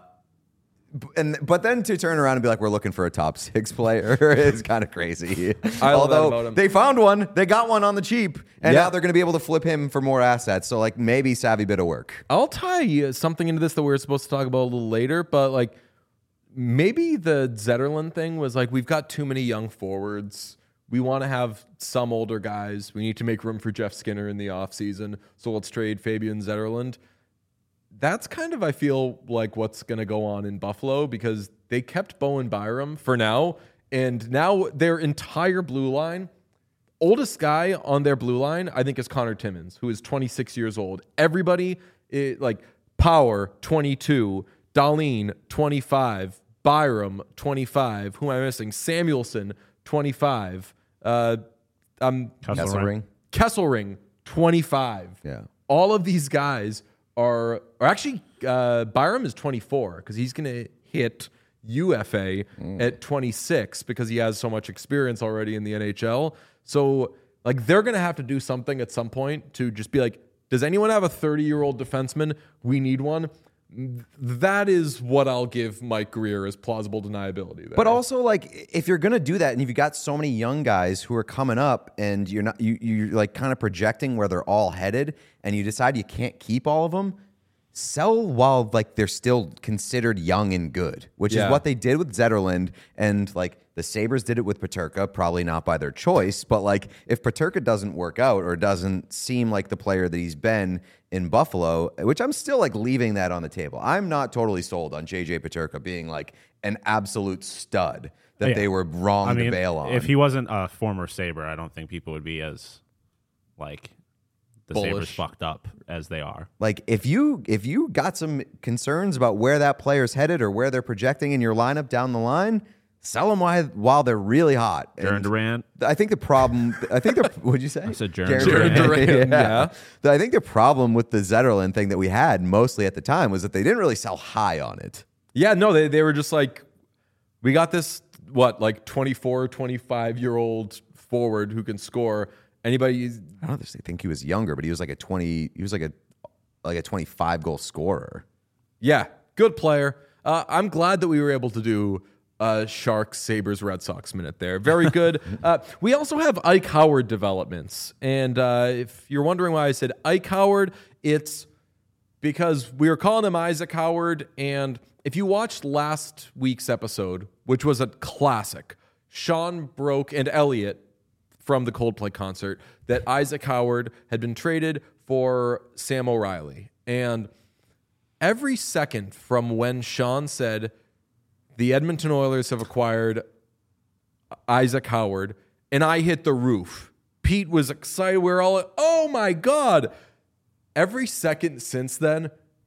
and but then to turn around and be like, we're looking for a top six player is kind of crazy. I love that about Although him. they found one, they got one on the cheap, and Yeah. now they're going to be able to flip him for more assets. So like maybe savvy bit of work. I'll tie something into this that we were supposed to talk about a little later, but like maybe the Zetterlund thing was like, we've got too many young forwards. We want to have some older guys. We need to make room for Jeff Skinner in the offseason. So let's trade Fabian Zetterlund. That's kind of, I feel like, what's going to go on in Buffalo because they kept Bowen Byram for now. And now their entire blue line, oldest guy on their blue line, I think, is Connor Timmins, who is twenty-six years old. Everybody, it, like Power, twenty-two, Dahlin, twenty-five, Byram, twenty-five. Who am I missing? Samuelson, twenty-five. Uh, um, Kesselring. Kesselring, twenty-five. Yeah. All of these guys are, or actually, uh, Byram is twenty-four because he's going to hit U F A mm. at twenty-six because he has so much experience already in the N H L. So, like, they're going to have to do something at some point to just be like, does anyone have a thirty-year-old defenseman? We need one. That is what I'll give Mike Grier as plausible deniability there. But also, like, if you're gonna do that, and you've got so many young guys who are coming up, and you're not, you you're like kind of projecting where they're all headed, and you decide you can't keep all of them, sell while like they're still considered young and good, which Yeah. is what they did with Zetterlund, and like the Sabres did it with Peterka, probably not by their choice, but like if Peterka doesn't work out or doesn't seem like the player that he's been in Buffalo, which I'm still like leaving that on the table. I'm not totally sold on J J Peterka being like an absolute stud that Yeah. they were wrong I mean, to bail on. if he wasn't a former Sabre, I don't think people would be as like the Bullish. Sabres fucked up as they are. Like if you if you got some concerns about where that player's headed or where they're projecting in your lineup down the line, sell them while, while they're really hot. Jaron And Durant. I think the problem. I think the. What'd you say? I said Jaron Jaron Durant, yeah. I think the problem with the Zetterlund thing that we had mostly at the time was that they didn't really sell high on it. Yeah, no, they, they were just like, we got this, what, like twenty-four, twenty-five-year-old forward who can score. Anybody... I don't think he was younger, but he was like a twenty. He was like a like a twenty-five goal scorer. Yeah, good player. Uh, I'm glad that we were able to do uh, Sharks, Sabres, Red Sox minute there. Very good. uh, we also have Ike Howard developments. And uh, if you're wondering why I said Ike Howard, it's because we were calling him Isaac Howard. And if you watched last week's episode, which was a classic. Sean broke, and Elliot from the Coldplay concert, that Isaac Howard had been traded for Sam O'Reilly. And every second from when Sean said, the Edmonton Oilers have acquired Isaac Howard, and I hit the roof. Pete was excited. We were all, oh my God. Every second since then,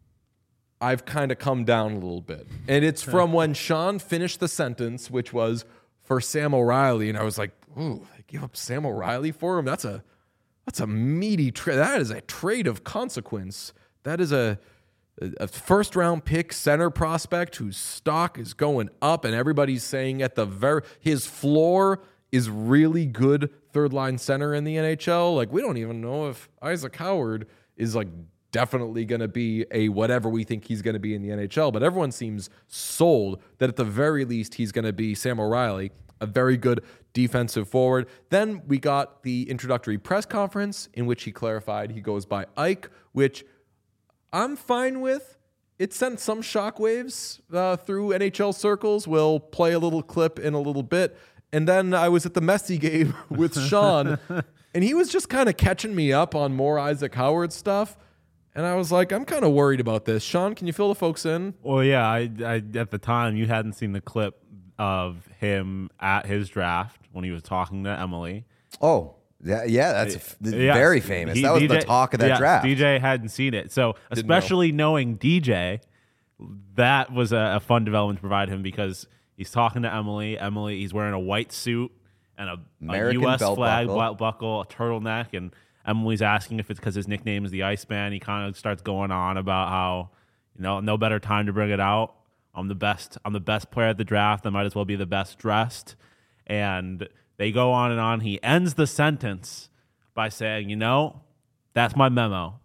I've kind of come down a little bit. And it's from when Sean finished the sentence, which was for Sam O'Reilly. And I was like, ooh, they give up Sam O'Reilly for him? That's a that's a meaty trade. That is a trade of consequence. That is a, a first round pick center prospect whose stock is going up, and everybody's saying at the very his floor is really good third line center in the N H L. Like, we don't even know if Isaac Howard is like definitely going to be a whatever we think he's going to be in the N H L, but everyone seems sold that at the very least he's going to be Sam O'Reilly, a very good defensive forward. Then we got the introductory press conference in which he clarified he goes by Ike, which I'm fine with. It sent some shockwaves uh, through N H L circles. We'll play a little clip in a little bit. And then I was at the Messy game with Sean, and he was just kind of catching me up on more Isaac Howard stuff. And I was like, I'm kind of worried about this. Sean, can you fill the folks in? Well, yeah, I, I at the time, you hadn't seen the clip of him at his draft when he was talking to Emily. Oh, yeah, yeah that's f- Yeah, very famous. he- that was D J the talk of that yeah, draft. D J hadn't seen it. So, especially knowing D J, that was a, a fun development to provide him because he's talking to Emily. Emily, he's wearing a white suit and a, American a U S belt flag buckle. belt buckle, a turtleneck, and Emily's asking if it's because his nickname is the Iceman. He kind of starts going on about how, you know, no better time to bring it out. I'm the best. I'm the best player at the draft. I might as well be the best dressed. And they go on and on. He ends the sentence by saying, you know, that's my memo,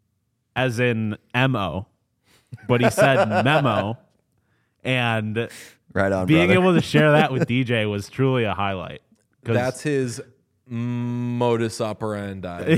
as in M O. But he said memo. And Right on, being brother. able to share that with D J was truly a highlight. 'Cause That's his modus operandi.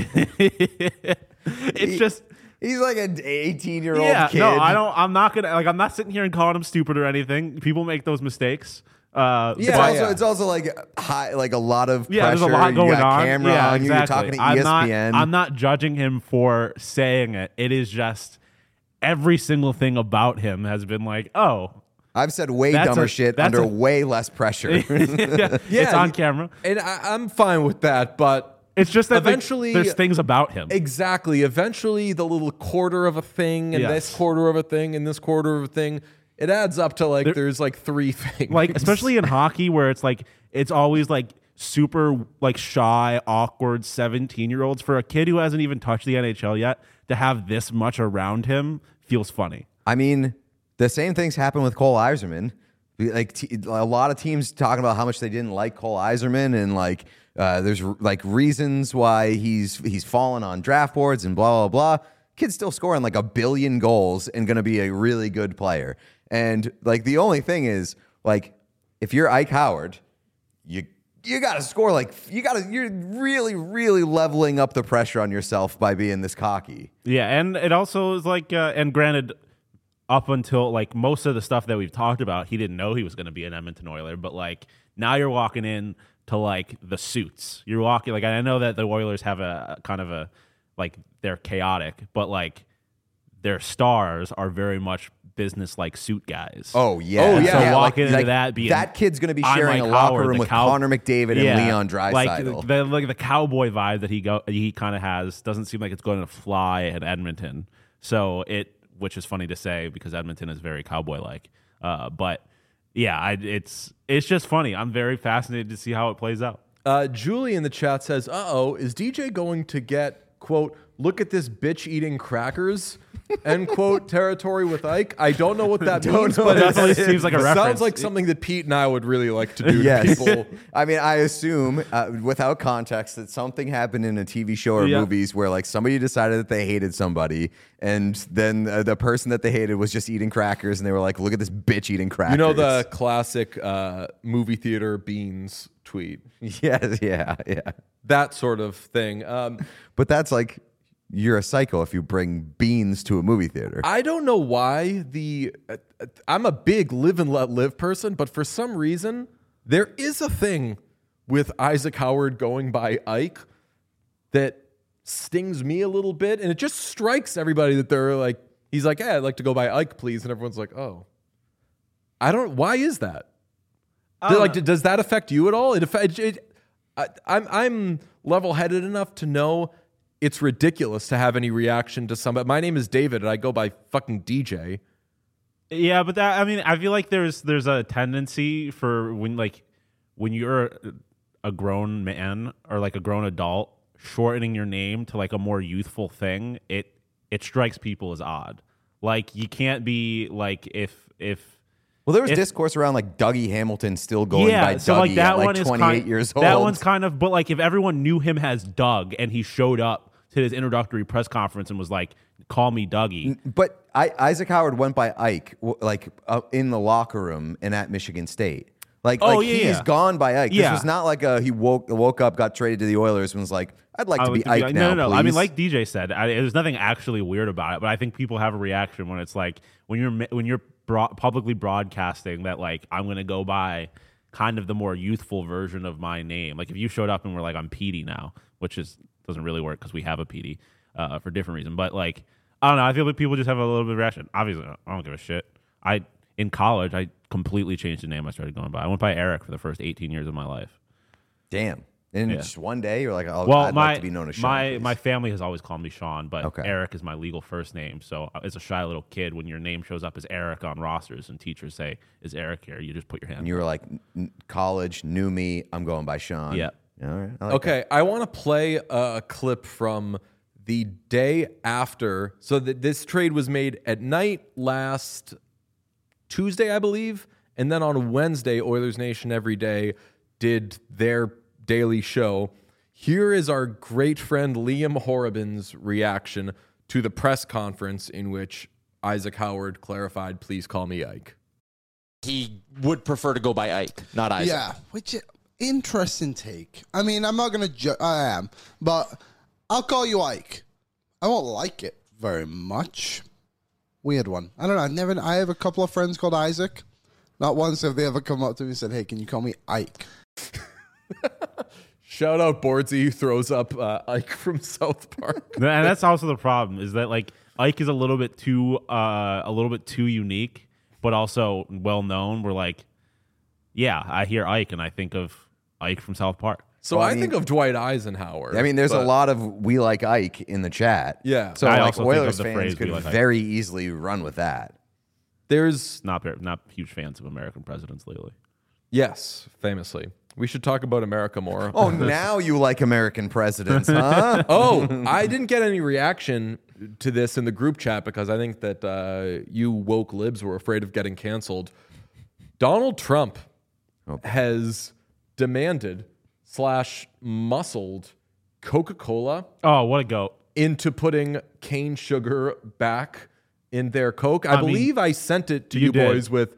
it's just He's like an eighteen-year-old yeah. kid. No, I don't. I'm not gonna like. I'm not sitting here and calling him stupid or anything. People make those mistakes. Uh, It's Yeah, but- also yeah. it's also like high, like a lot of yeah. pressure. There's a lot going you got on. Camera yeah, on you. exactly. You're talking to I'm E S P N. Not, I'm not judging him for saying it. It is just every single thing about him has been like, oh, I've said way That's dumber a- shit that's under a- way less pressure. yeah, it's on camera. And I, I'm fine with that, but It's just that eventually eventually there's things about him. Exactly. Eventually, the little quarter of a thing and Yes. this quarter of a thing and this quarter of a thing, it adds up to like There- there's like three things. Like especially in hockey where it's like it's always like super like shy, awkward seventeen year olds. For a kid who hasn't even touched the N H L yet to have this much around him feels funny. I mean, the same things happen with Cole Iserman. Like t- a lot of teams talking about how much they didn't like Cole Iserman, and like uh, there's r- like reasons why he's he's fallen on draft boards and blah blah blah. Kid's still scoring like a billion goals and going to be a really good player. And like the only thing is like if you're Ike Howard, you you got to score like you got to you're really really leveling up the pressure on yourself by being this cocky. Yeah, and it also is like uh, and granted up until like most of the stuff that we've talked about, he didn't know he was going to be an Edmonton Oiler, but like now you're walking in to like the suits. You're walking like I know that the Oilers have a, a kind of a like they're chaotic, but like their stars are very much business like suit guys. Oh yeah, Oh, And yeah. So Yeah, walking like- into like, that being that kid's going to be I'm sharing like a locker Howard, room the with cow- Connor McDavid and Yeah, Leon Draisaitl. Like the like the cowboy vibe that he go he kind of has doesn't seem like it's going to fly at Edmonton. So it, which is funny to say because Edmonton is very cowboy like. Uh, but yeah, I, it's it's just funny. I'm very fascinated to see how it plays out. Uh, Julie in the chat says, uh oh, is D J going to get, quote, look at this bitch eating crackers, end quote, territory with Ike? I don't know what that Don't means, know but what it that definitely seems like a sounds reference. like something that Pete and I would really like to do Yes. to people. I mean, I assume, uh, without context, that something happened in a T V show or Yeah. movies where, like, somebody decided that they hated somebody, and then uh, the person that they hated was just eating crackers, and they were like, "Look at this bitch eating crackers." You know the classic uh, movie theater beans tweet? Yes, yeah, yeah. That sort of thing. Um, But that's like, you're a psycho if you bring beans to a movie theater. I don't know why the uh, I'm a big live and let live person, but for some reason there is a thing with Isaac Howard going by Ike that stings me a little bit, and it just strikes everybody that they're like, he's like, "Hey, I'd like to go by Ike, please," and everyone's like, "Oh, I don't." Why is that? Do, like, does that affect you at all? It affect. It, I, I'm I'm level-headed enough to know it's ridiculous to have any reaction to somebody. My name is David, and I go by fucking D J. Yeah, but that, I mean, I feel like there's there's a tendency for when like when you're a grown man or like a grown adult, shortening your name to like a more youthful thing, it it strikes people as odd. Like you can't be like if if Well, there was if, discourse around like Dougie Hamilton still going yeah, by so Dougie like that at like one is twenty-eight kind, years old. That one's kind of, but like if everyone knew him as Doug and he showed up to his introductory press conference and was like, "Call me Dougie." But I, Isaac Howard went by Ike, w- like uh, in the locker room and at Michigan State. Like, Oh, like yeah, he's yeah. gone by Ike. Yeah. This was not like a, he woke woke up, got traded to the Oilers, and was like, "I'd like I to would be be Ike like, now." No, no, no. Please. I mean, like D J said, I, there's nothing actually weird about it, but I think people have a reaction when it's like when you're ma- when you're broad, publicly broadcasting that like I'm going to go by kind of the more youthful version of my name. Like if you showed up and were like, "I'm Petey now," which is doesn't really work because we have a Petey uh, for different reason. But like I don't know, I feel like people just have a little bit of reaction. Obviously, I don't give a shit. I in college I completely changed the name I started going by. I went by Eric for the first eighteen years of my life. Damn. And Yeah. just one day, you're like, oh, Well, I'd my like to be known as Sean. my please. my family has always called me Sean, but Okay. Eric is my legal first name. So uh, as a shy little kid, when your name shows up as Eric on rosters and teachers say, "Is Eric here?" you just put your hand. And you were like, "N- college, knew me, I'm going by Sean. Yeah. All right. I like Okay, I want to play a clip from the day after. So that this trade was made at night last Tuesday, I believe, and then on Wednesday, Oilers Nation Every Day did their daily show. Here is our great friend Liam Horrobin's reaction to the press conference in which Isaac Howard clarified, "Please call me Ike." He would prefer to go by Ike, not Isaac. Yeah, which interesting take. I mean, I'm not gonna. Ju- I am, but I'll call you Ike. I won't like it very much. Weird one. I don't know. I never. I have a couple of friends called Isaac. Not once have they ever come up to me and said, "Hey, can you call me Ike?" Shout out Boardsy, who throws up uh, Ike from South Park. and that's also the problem is that like Ike is a little bit too uh, a little bit too unique, but also well known. We're like, yeah, I hear Ike and I think of Ike from South Park. So Well, I I, mean- think of Dwight Eisenhower. I mean, there's a but- lot of "we like Ike" in the chat. Yeah. So I like also think of Oilers the fans phrase, could "we like Ike." very easily run with that. There's Not very, not huge fans of American presidents lately. yes, famously. We should talk about America more. Oh, now you like American presidents, huh? Oh, I didn't get any reaction to this in the group chat because I think that uh, you woke libs were afraid of getting canceled. Donald Trump has demanded slash muscled Coca-Cola Oh, what a goat! into putting cane sugar back in their Coke. I, I mean, believe I sent it to you you, did. boys with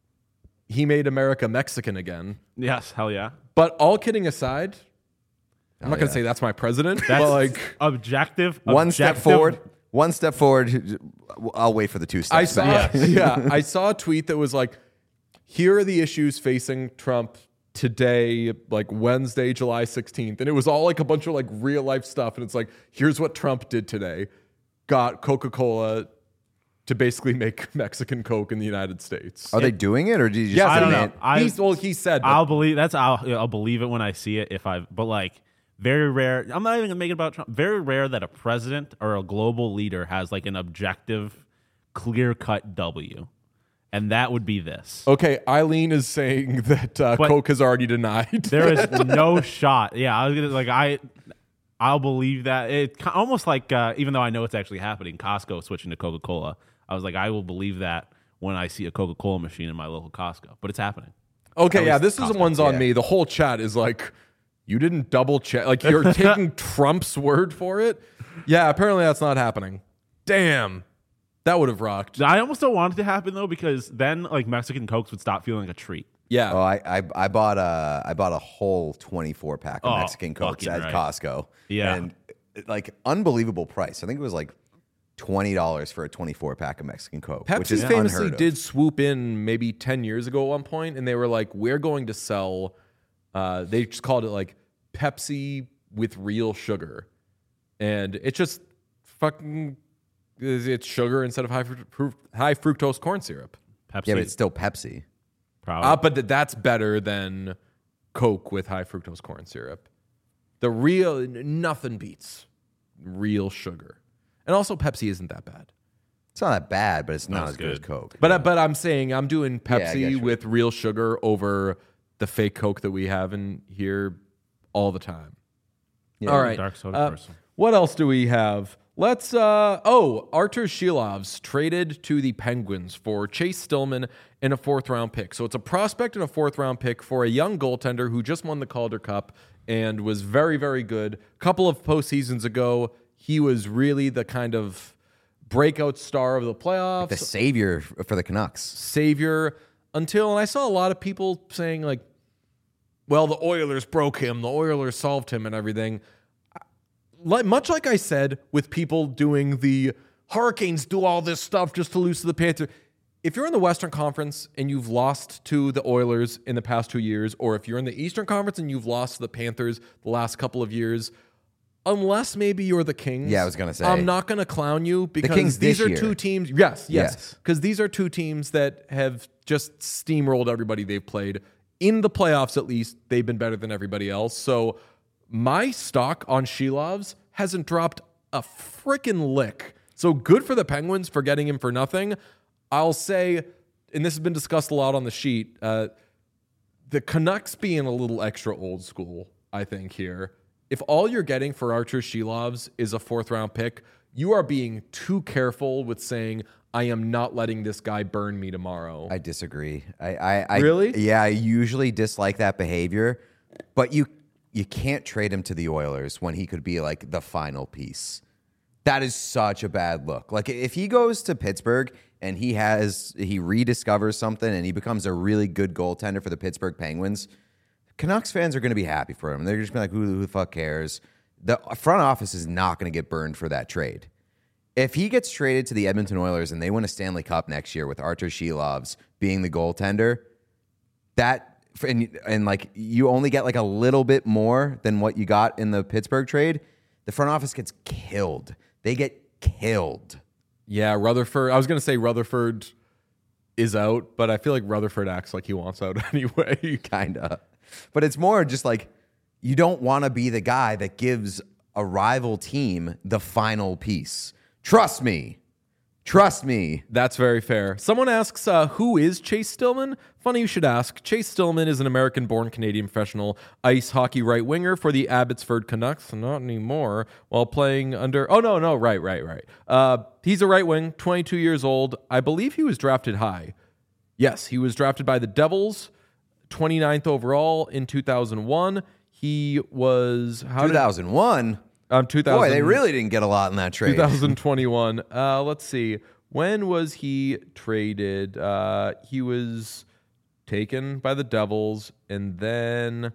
"He made America Mexican again." Yes, hell yeah. But all kidding aside, I'm not going yeah. to say that's my president, That's but like objective. One step objective- forward. One step forward. I'll wait for the two I steps saw, back. yeah, I saw a tweet that was like, "Here are the issues facing Trump today, like Wednesday, July sixteenth," and it was all like a bunch of like real life stuff, and it's like, here's what Trump did today: got Coca-Cola to basically make Mexican Coke in the United States. Are they doing it, or did you just Yes, I don't demand- know. I, He's, well, he said, but I'll believe that's I'll I'll believe it when I see it. If I but like very rare. I'm not even gonna make it about Trump. Very rare that a president or a global leader has like an objective, clear cut W, and that would be this. okay, Eileen is saying that uh, But- Coke has already denied. There is no shot. Yeah, I was gonna like I. I'll believe that. It ki- almost like uh, even though I know it's actually happening, Costco switching to Coca Cola. I was like, I will believe that when I see a Coca Cola machine in my local Costco. But it's happening. Okay, At yeah, least this is Costco. one's on Yeah. me. The whole chat is like, you didn't double check. Like, you're taking Trump's word for it. Yeah, apparently that's not happening. Damn. That would have rocked. I almost don't want it to happen though, because then like Mexican Cokes would stop feeling like a treat. Yeah. Oh, I, I I bought a I bought a whole twenty-four pack of Oh, Mexican Cokes fucking at right. Costco. Yeah. and like unbelievable price. I think it was like twenty dollars for a twenty-four pack of Mexican Coke, which Pepsi is famously unheard of. did swoop in maybe ten years ago at one point, and they were like, we're going to sell, uh, they just called it like Pepsi with real sugar. And it's just fucking, it's sugar instead of high, fru- high fructose corn syrup. Pepsi, Yeah, but it's still Pepsi. probably. Uh, but th- that's better than Coke with high fructose corn syrup. The real, n- nothing beats real sugar. And also Pepsi isn't that bad. It's not that bad, but it's not it's as good as good. Coke. But, uh, but I'm saying I'm doing Yeah, I Pepsi get you. with real sugar over the fake Coke that we have in here all the time. Yeah. All right. Dark soda Uh, person. what else do we have? Let's, uh, oh, Artur Shilovs traded to the Penguins for Chase Stillman and a fourth round pick. So it's a prospect and a fourth round pick for a young goaltender who just won the Calder Cup and was very, very good. A couple of postseasons ago, he was really the kind of breakout star of the playoffs. The savior for the Canucks. Savior until, and I saw a lot of people saying, like, well, the Oilers broke him, the Oilers solved him, and everything. Like, much like I said with people doing the Hurricanes do all this stuff just to lose to the Panthers. If you're in the Western Conference and you've lost to the Oilers in the past two years, or if you're in the Eastern Conference and you've lost to the Panthers the last couple of years, unless maybe you're the Kings. Yeah, I was gonna say. I'm not going to clown you because Kings these this are year. two teams. Yes, yes. Yes. Because these are two teams that have just steamrolled everybody they've played. In the playoffs, at least, they've been better than everybody else. So my stock on Shilovs hasn't dropped a freaking lick. So good for the Penguins for getting him for nothing. I'll say, and this has been discussed a lot on the sheet, uh, the Canucks being a little extra old school, I think, here. If all you're getting for Artur Shilovs is a fourth round pick, you are being too careful with saying, I am not letting this guy burn me tomorrow. I disagree. I, I, I Really? Yeah, I usually dislike that behavior, but you you can't trade him to the Oilers when he could be like the final piece. That is such a bad look. Like if he goes to Pittsburgh and he has he rediscovers something and he becomes a really good goaltender for the Pittsburgh Penguins, Canucks fans are going to be happy for him. They're just gonna be like, who, who the fuck cares? The front office is not going to get burned for that trade. If he gets traded to the Edmonton Oilers and they win a Stanley Cup next year with Artur Shilovs being the goaltender, that and, and like you only get like a little bit more than what you got in the Pittsburgh trade, the front office gets killed. They get killed. Yeah, Rutherford. I was going to say Rutherford is out, but I feel like Rutherford acts like he wants out anyway. Kinda. But it's more just like you don't want to be the guy that gives a rival team the final piece. Trust me. Trust me. That's very fair. Someone asks, uh, who is Chase Stillman? Funny you should ask. Chase Stillman is an American-born Canadian professional ice hockey right winger for the Abbotsford Canucks. Not anymore. While playing under... Oh, no, no. Right, right, right. Uh, he's a right wing, twenty-two years old. I believe he was drafted high. Yes, he was drafted by the Devils, twenty-ninth overall in two thousand one. He was... How two thousand one? Did, um, two thousand, Boy, they really didn't get a lot in that trade. twenty twenty-one. Uh, let's see. When was he traded? Uh, he was taken by the Devils, and then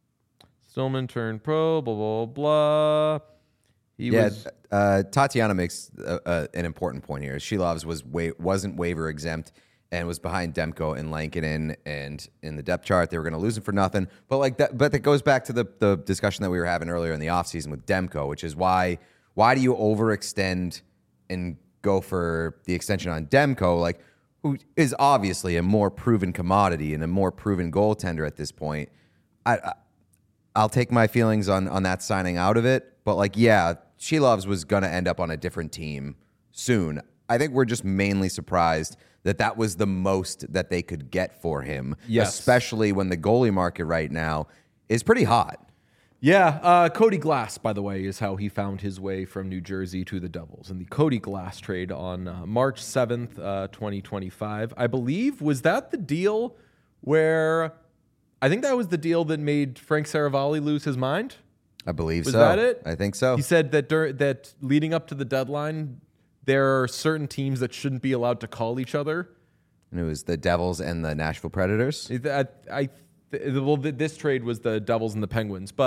Stillman turned pro, blah, blah, blah. He Yeah, was... uh, Tatiana makes uh, uh, an important point here. Shilovs was wa- wasn't waiver exempt and was behind Demko and Lankinen, and in the depth chart they were going to lose him for nothing. But like that, but that goes back to the the discussion that we were having earlier in the offseason with Demko, which is why why do you overextend and go for the extension on Demko, like who is obviously a more proven commodity and a more proven goaltender at this point. I, I I'll take my feelings on on that signing out of it, but like yeah, Shilovs was going to end up on a different team soon. I think we're just mainly surprised that that was the most that they could get for him, Yes. especially when the goalie market right now is pretty hot. Yeah, uh, Cody Glass, by the way, is how he found his way from New Jersey to the Devils. And the Cody Glass trade on uh, March seventh, uh, twenty twenty-five, I believe, was that the deal where... I think that was the deal that made Frank Saravalli lose his mind. I believe Was so. that it? I think so. He said that dur- that leading up to the deadline, there are certain teams that shouldn't be allowed to call each other. And it was the Devils and the Nashville Predators. I, I, I- well, th- this trade was the Devils and the Penguins, but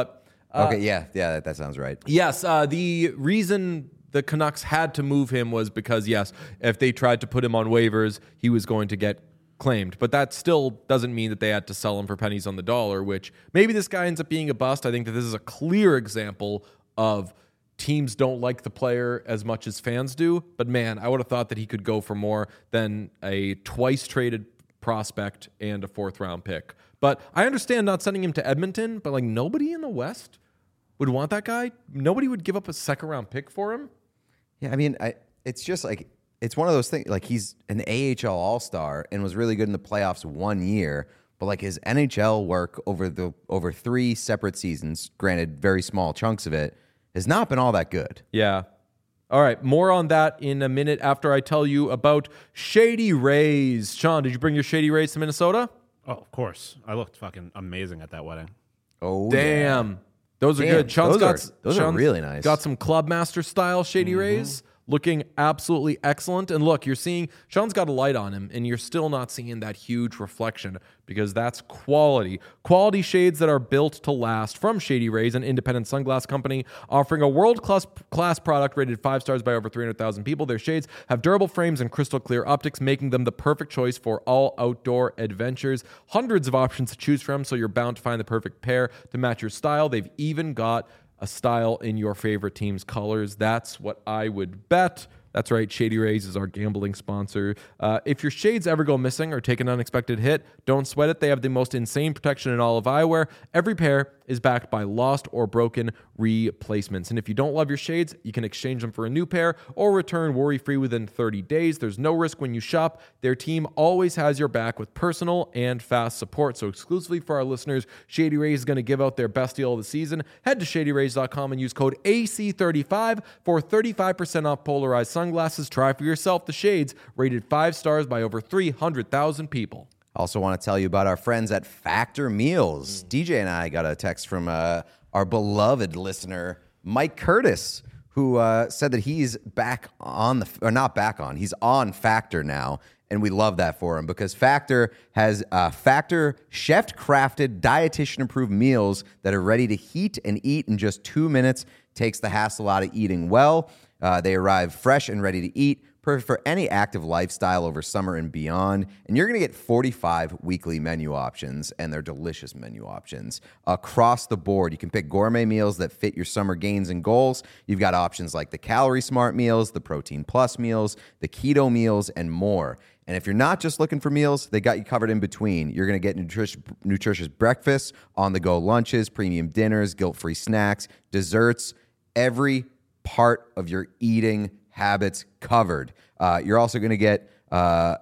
Okay, yeah, yeah, that, that sounds right. Yes, uh, the reason the Canucks had to move him was because, yes, if they tried to put him on waivers, he was going to get claimed. But that still doesn't mean that they had to sell him for pennies on the dollar, which maybe this guy ends up being a bust. I think that this is a clear example of teams don't like the player as much as fans do. But, man, I would have thought that he could go for more than a twice-traded prospect and a fourth-round pick. But I understand not sending him to Edmonton, but, like, nobody in the West would want that guy. Nobody would give up a second-round pick for him. Yeah, I mean, I, it's just like, it's one of those things, like he's an A H L All-Star and was really good in the playoffs one year, but like his N H L work over the over three separate seasons, granted very small chunks of it, has not been all that good. Yeah. All right, more on that in a minute after I tell you about Shady Rays. Sean, did you bring your Shady Rays to Minnesota? Oh, of course. I looked fucking amazing at that wedding. Oh, Damn. yeah. Those are Damn, good. Sean's those got, are- those are Sean's really nice. Got some Clubmaster style Shady Rays. Looking absolutely excellent. And look, you're seeing Sean's got a light on him, and you're still not seeing that huge reflection because that's quality. Quality shades that are built to last from Shady Rays, an independent sunglass company offering a world-class class product rated five stars by over three hundred thousand people. Their shades have durable frames and crystal clear optics, making them the perfect choice for all outdoor adventures. Hundreds of options to choose from, so you're bound to find the perfect pair to match your style. They've even got a style in your favorite team's colors. That's what I would bet. That's right, Shady Rays is our gambling sponsor. Uh, if your shades ever go missing or take an unexpected hit, don't sweat it. They have the most insane protection in all of eyewear. Every pair is backed by lost or broken replacements. And if you don't love your shades, you can exchange them for a new pair or return worry-free within thirty days. There's no risk when you shop. Their team always has your back with personal and fast support. So exclusively for our listeners, Shady Rays is going to give out their best deal of the season. Head to shady rays dot com and use code A C thirty-five for thirty-five percent off polarized sunglasses. Try for yourself the shades, rated five stars by over three hundred thousand people. Also want to tell you about our friends at Factor Meals. D J and I got a text from uh, our beloved listener, Mike Curtis, who uh, said that he's back on the, or not back on, he's on Factor now. And we love that for him because Factor has uh, Factor chef-crafted, dietitian-approved meals that are ready to heat and eat in just two minutes. Takes the hassle out of eating well. Uh, they arrive fresh and ready to eat. Perfect for any active lifestyle over summer and beyond. And you're going to get forty-five weekly menu options, and they're delicious menu options across the board. You can pick gourmet meals that fit your summer gains and goals. You've got options like the Calorie Smart meals, the Protein Plus meals, the Keto meals, and more. And if you're not just looking for meals, they got you covered in between. You're going to get nutritious, nutritious breakfasts, on-the-go lunches, premium dinners, guilt-free snacks, desserts, every part of your eating habits covered. Uh, you're also going to get uh,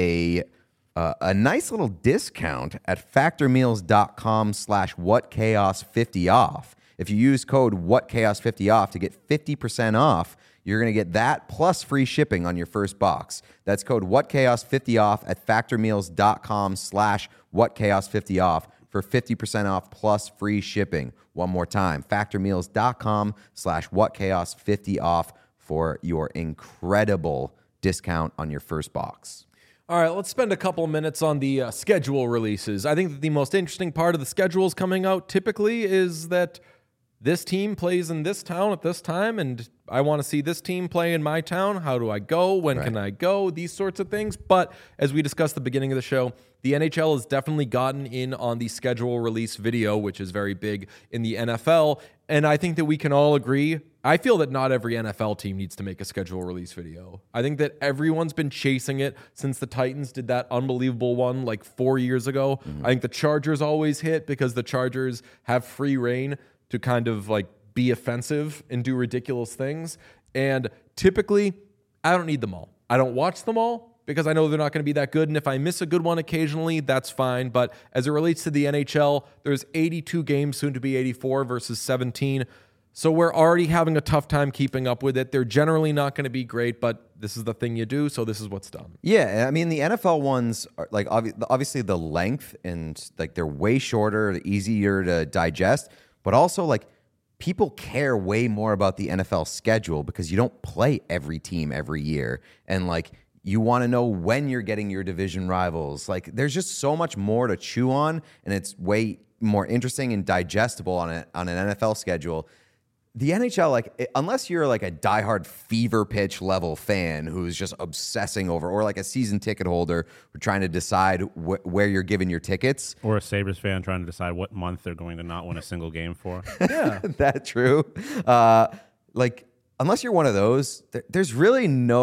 a uh, a nice little discount at factormeals.com slash whatchaos50 off. If you use code whatchaos50 off to get fifty percent off, you're going to get that plus free shipping on your first box. That's code whatchaos50 off at factormeals.com slash whatchaos50 off for fifty percent off plus free shipping. One more time, factormeals.com slash whatchaos50 off for your incredible discount on your first box. All right, let's spend a couple minutes on the uh, schedule releases. I think that the most interesting part of the schedules coming out typically is that this team plays in this town at this time, and I want to see this team play in my town. How do I go? When Right. can I go? These sorts of things. But as we discussed at the beginning of the show, the N H L has definitely gotten in on the schedule release video, which is very big in the N F L. And I think that we can all agree. I feel that not every N F L team needs to make a schedule release video. I think that everyone's been chasing it since the Titans did that unbelievable one like four years ago. Mm-hmm. I think the Chargers always hit because the Chargers have free reign to kind of like be offensive and do ridiculous things. And typically, I don't need them all. I don't watch them all because I know they're not going to be that good. And if I miss a good one occasionally, that's fine. But as it relates to the N H L, there's eighty-two games, soon to be eighty-four versus seventeen. So we're already having a tough time keeping up with it. They're generally not going to be great, but this is the thing you do, so this is what's done. Yeah, I mean the N F L ones are like obvi- obviously the length and like they're way shorter, easier to digest, but also like people care way more about the N F L schedule because you don't play every team every year, and like you want to know when you're getting your division rivals. Like there's just so much more to chew on, and it's way more interesting and digestible on a, on an N F L schedule. The N H L, like, it, unless you're like a diehard fever pitch level fan who's just obsessing over, or like a season ticket holder who trying to decide wh- where you're giving your tickets. Or a Sabres fan trying to decide what month they're going to not win a single game for. Yeah. That true. Uh, like, unless you're one of those, th- there's really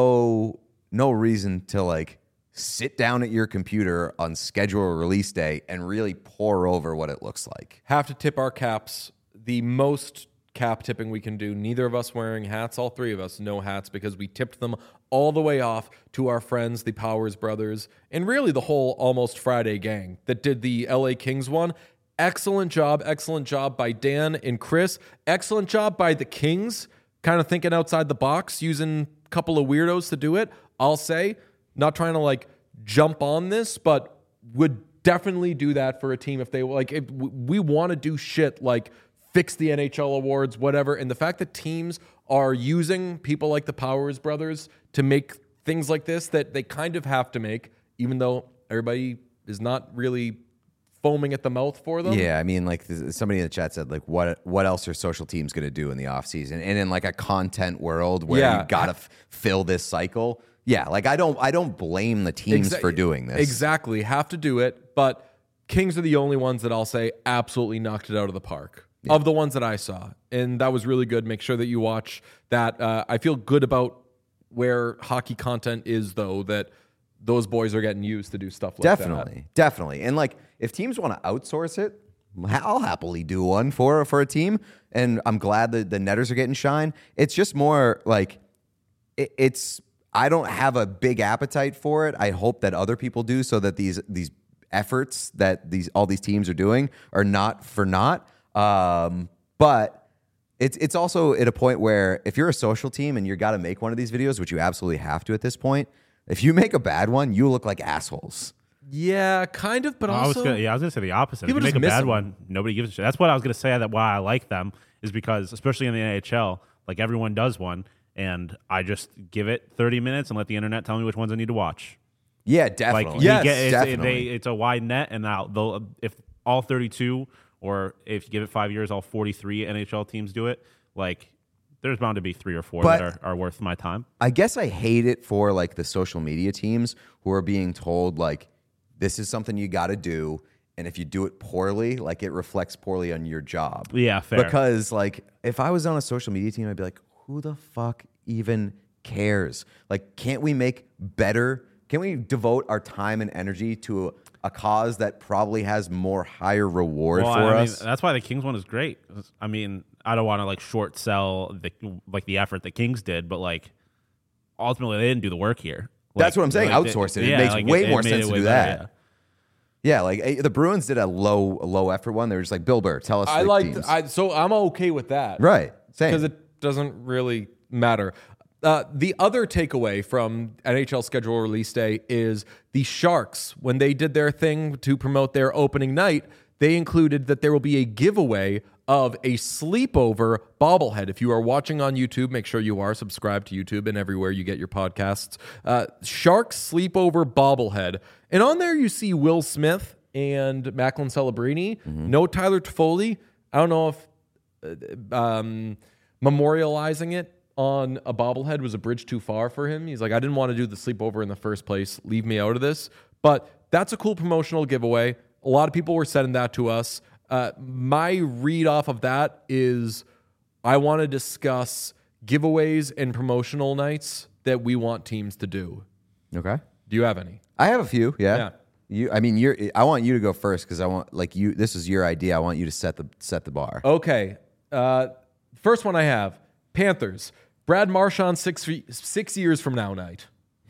no no reason to like sit down at your computer on schedule or release day and really pour over what it looks like. Have to tip our caps. The most cap tipping we can do. Neither of us wearing hats. All three of us no hats because we tipped them all the way off to our friends, the Powers brothers, and really the whole Almost Friday gang that did the L A Kings one. Excellent job. Excellent job by Dan and Chris. Excellent job by the Kings. Kind of thinking outside the box, using a couple of weirdos to do it. I'll say, not trying to like jump on this, but would definitely do that for a team if they like. If we want to do shit like fix the N H L awards, whatever. And the fact that teams are using people like the Powers brothers to make things like this that they kind of have to make, even though everybody is not really foaming at the mouth for them. Yeah, I mean, like th- somebody in the chat said, like, what what else are social teams going to do in the offseason? And in like a content world where Yeah. you got to f- fill this cycle. Yeah, like I don't I don't blame the teams Exa- for doing this. Exactly. Have to do it. But Kings are the only ones that I'll say absolutely knocked it out of the park. Yeah. Of the ones that I saw. And that was really good. Make sure that you watch that. Uh, I feel good about where hockey content is, though, that those boys are getting used to do stuff like definitely, that. Definitely. Definitely. And like if teams want to outsource it, I'll happily do one for, for a team. And I'm glad that the Netters are getting shine. It's just more like it, it's I don't have a big appetite for it. I hope that other people do so that these these efforts that these all these teams are doing are not for naught. Um, but it's it's also at a point where if you're a social team and you got to make one of these videos, which you absolutely have to at this point, if you make a bad one, you look like assholes. Yeah, kind of, but I was also... gonna, yeah, I was going to say the opposite. If People you make just a miss bad them. one, nobody gives a shit. That's what I was going to say. That why I like them is because, especially in the N H L, like everyone does one, and I just give it thirty minutes and let the internet tell me which ones I need to watch. Yeah, definitely. Like, Yes, you get, it's, definitely. They, it's a wide net, and now they'll if all thirty-two, or if you give it five years, all forty-three N H L teams do it. Like, there's bound to be three or four But- that are, are worth my time. I guess I hate it for like the social media teams who are being told like this is something you got to do, and if you do it poorly, like it reflects poorly on your job. Yeah, fair. Because like if I was on a social media team, I'd be like, who the fuck even cares? Like, can't we make better? Can we devote our time and energy to a, a cause that probably has more higher reward Well, for I us? mean, that's why the Kings one is great. I mean, I don't want to like short sell the like the effort the Kings did, but like ultimately they didn't do the work here. Like, That's what I'm saying. like, Outsource it. It yeah, makes like, way it more made sense it to way do better, that. yeah. Yeah, like eh, the Bruins did a low a low effort one. They were just like, Bill Burr, tell us. I the like, teams. I, so I'm okay with that. Right, same. Because it doesn't really matter. Uh, the other takeaway from N H L schedule release day is the Sharks, when they did their thing to promote their opening night, they included that there will be a giveaway of a sleepover bobblehead. If you are watching on YouTube, make sure you are subscribed to YouTube and everywhere you get your podcasts. Uh, Sharks sleepover bobblehead. And on there you see Will Smith and Macklin Celebrini. Mm-hmm. No Tyler Toffoli. I don't know if uh, um, memorializing it on a bobblehead was a bridge too far for him. He's like, I didn't want to do the sleepover in the first place. Leave me out of this. But that's a cool promotional giveaway. A lot of people were sending that to us. Uh, my read off of that is I want to discuss giveaways and promotional nights that we want teams to do. Okay. Do you have any? I have a few. Yeah. Yeah. You. I mean, you're. I want you to go first because I want like you. This is your idea. I want you to set the set the bar. Okay. Uh, first one I have Panthers. Brad Marchand six six years from now night.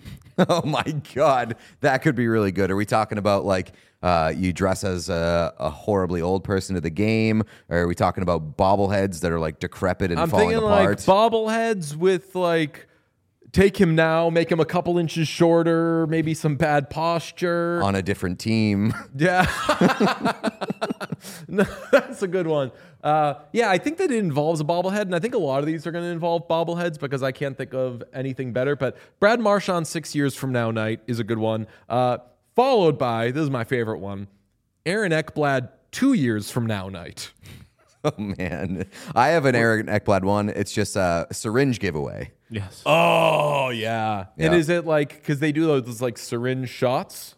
Oh my God, that could be really good. Are we talking about like uh, you dress as a, a horribly old person to the game, or are we talking about bobbleheads that are like decrepit and I'm falling thinking apart? like bobbleheads with like take him now, make him a couple inches shorter, maybe some bad posture. on a different team. Yeah. No, that's a good one. Uh, yeah, I think that it involves a bobblehead, and I think a lot of these are going to involve bobbleheads because I can't think of anything better. But Brad Marchand six years from now night is a good one. Uh, followed by, this is my favorite one, Aaron Ekblad two years from now night. Oh man, I have an Eric Ekblad one. It's just a syringe giveaway. Yes. Oh yeah. And Yeah. is it like because they do those like syringe shots?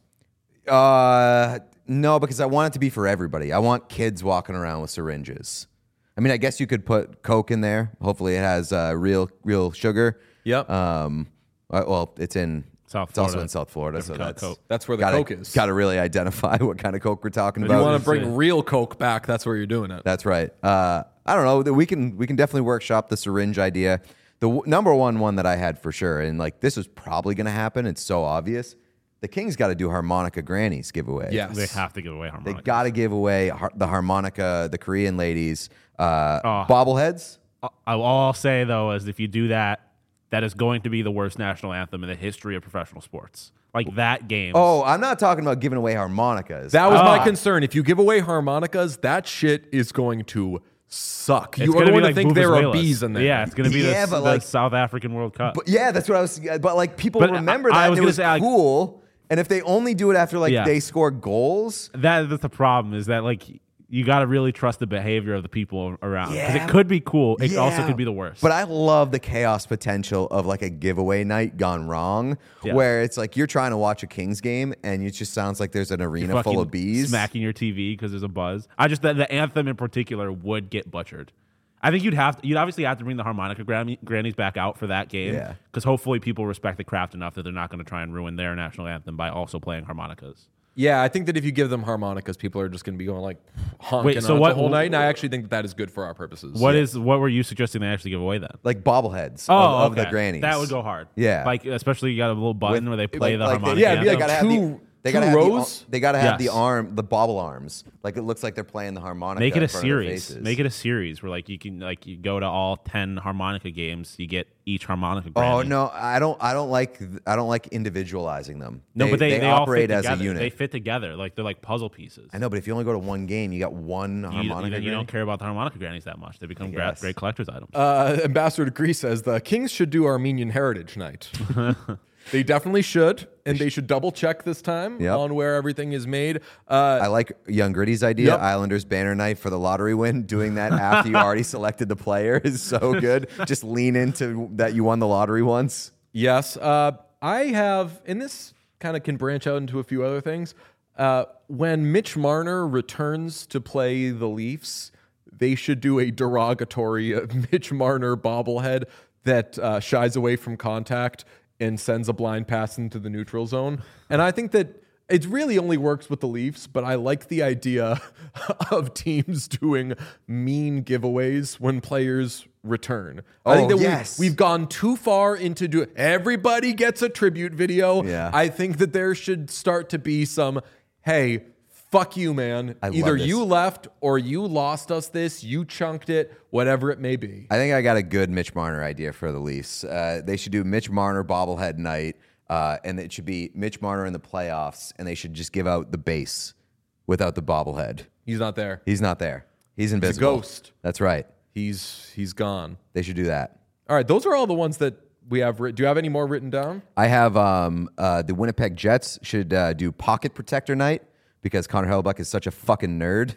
Uh, no, because I want it to be for everybody. I want kids walking around with syringes. I mean, I guess you could put Coke in there. Hopefully, it has uh, real real sugar. Yep. Um, uh, well, it's in South It's also Florida. in South Florida, so Different kind of that's Coke. That's where the gotta, Coke is. Got to really identify what kind of Coke we're talking If about. you want to it's bring a- real Coke back, that's where you're doing it. That's right. Uh, I don't know. We can we can definitely workshop the syringe idea. The w- number one one that I had for sure, and like this is probably going to happen. It's so obvious. The Kings got to do harmonica grannies giveaway. Yes. They have to give away They harmonica. got to give away har- the harmonica, the Korean ladies, uh, Oh. bobbleheads. I- all I'll say though is if you do that, that is going to be the worst national anthem in the history of professional sports. Like that game. Oh, I'm not talking about giving away harmonicas. That was my Ah. concern. If you give away harmonicas, that shit is going to suck. It's You are gonna going be to like think there are Vuvuzelas. bees in there. Yeah, it's going to be Yeah, the, but the like- South African World Cup. But yeah, that's what I was. But like people But remember I- that. I was and it gonna was say, like- cool. And if they only do it after like Yeah. they score goals, that that's the problem is that like you got to really trust the behavior of the people around because Yeah. it could be cool. It also Yeah. could be the worst. But I love the chaos potential of like a giveaway night gone wrong, Yeah. where it's like you're trying to watch a Kings game and it just sounds like there's an arena full Fucking of bees. smacking your T V because there's a buzz. I just the, the anthem in particular would get butchered. I think you'd have to, you'd obviously have to bring the harmonica granny, grannies back out for that game. Yeah. Because hopefully people respect the craft enough that they're not going to try and ruin their national anthem by also playing harmonicas. Yeah, I think that if you give them harmonicas, people are just going to be going like honking Wait, so on it what- the whole night. And I actually think that that is good for our purposes. What is what were you suggesting they actually give away then? Like bobbleheads Oh, of, of okay. the grannies. That would go hard. Yeah. like especially you got a little button With- where they play like- the like they- harmonica. yeah, it'd be like They anthem. gotta have two- the, they two gotta have the, rows? they gotta have the Yes. arm, the bobble arms. Like it looks like they're playing the harmonica. Make it in a front of their series. faces. Make it a series where like you can like you go to all ten harmonica games. You get each harmonica. Oh granny. no, I don't. I don't like. I don't like individualizing them. no, but they, they, all operate fit as a together. unit. They fit together like they're like puzzle pieces. I know, but if you only go to one game, you got one You, harmonica. then you granny. don't care about the harmonica grannies that much. They become gra- guess. great collector's items. Uh, Ambassador Degree says the Kings should do Armenian Heritage Night. They definitely should, and they should double check this time Yep. on where everything is made. Uh, I like Young Gritty's idea. Yep. Islanders banner night for the lottery win. Doing that after you already selected the player is so good. Just lean into that you won the lottery once. Yes. Uh, I have, and this kind of can branch out into a few other things. Uh, when Mitch Marner returns to play the Leafs, they should do a derogatory uh, Mitch Marner bobblehead that uh, shies away from contact and sends a blind pass into the neutral zone. And I think that it really only works with the Leafs, but I like the idea of teams doing mean giveaways when players return. I think Oh, that yes. we, we've gone too far into do everybody gets a tribute video. Yeah. I think that there should start to be some, hey, fuck you, man. I love Either this. you left or you lost us this, you chunked it, whatever it may be. I think I got a good Mitch Marner idea for the Leafs. Uh, they should do Mitch Marner bobblehead night, uh, and it should be Mitch Marner in the playoffs, and they should just give out the base without the bobblehead. He's not there. He's not there. He's invisible. ghost. That's right. He's he's gone. They should do that. All right, those are all the ones that we have written. Do you have any more written down? I have um, uh, the Winnipeg Jets should uh, do pocket protector night because Connor Hellebuck is such a fucking nerd.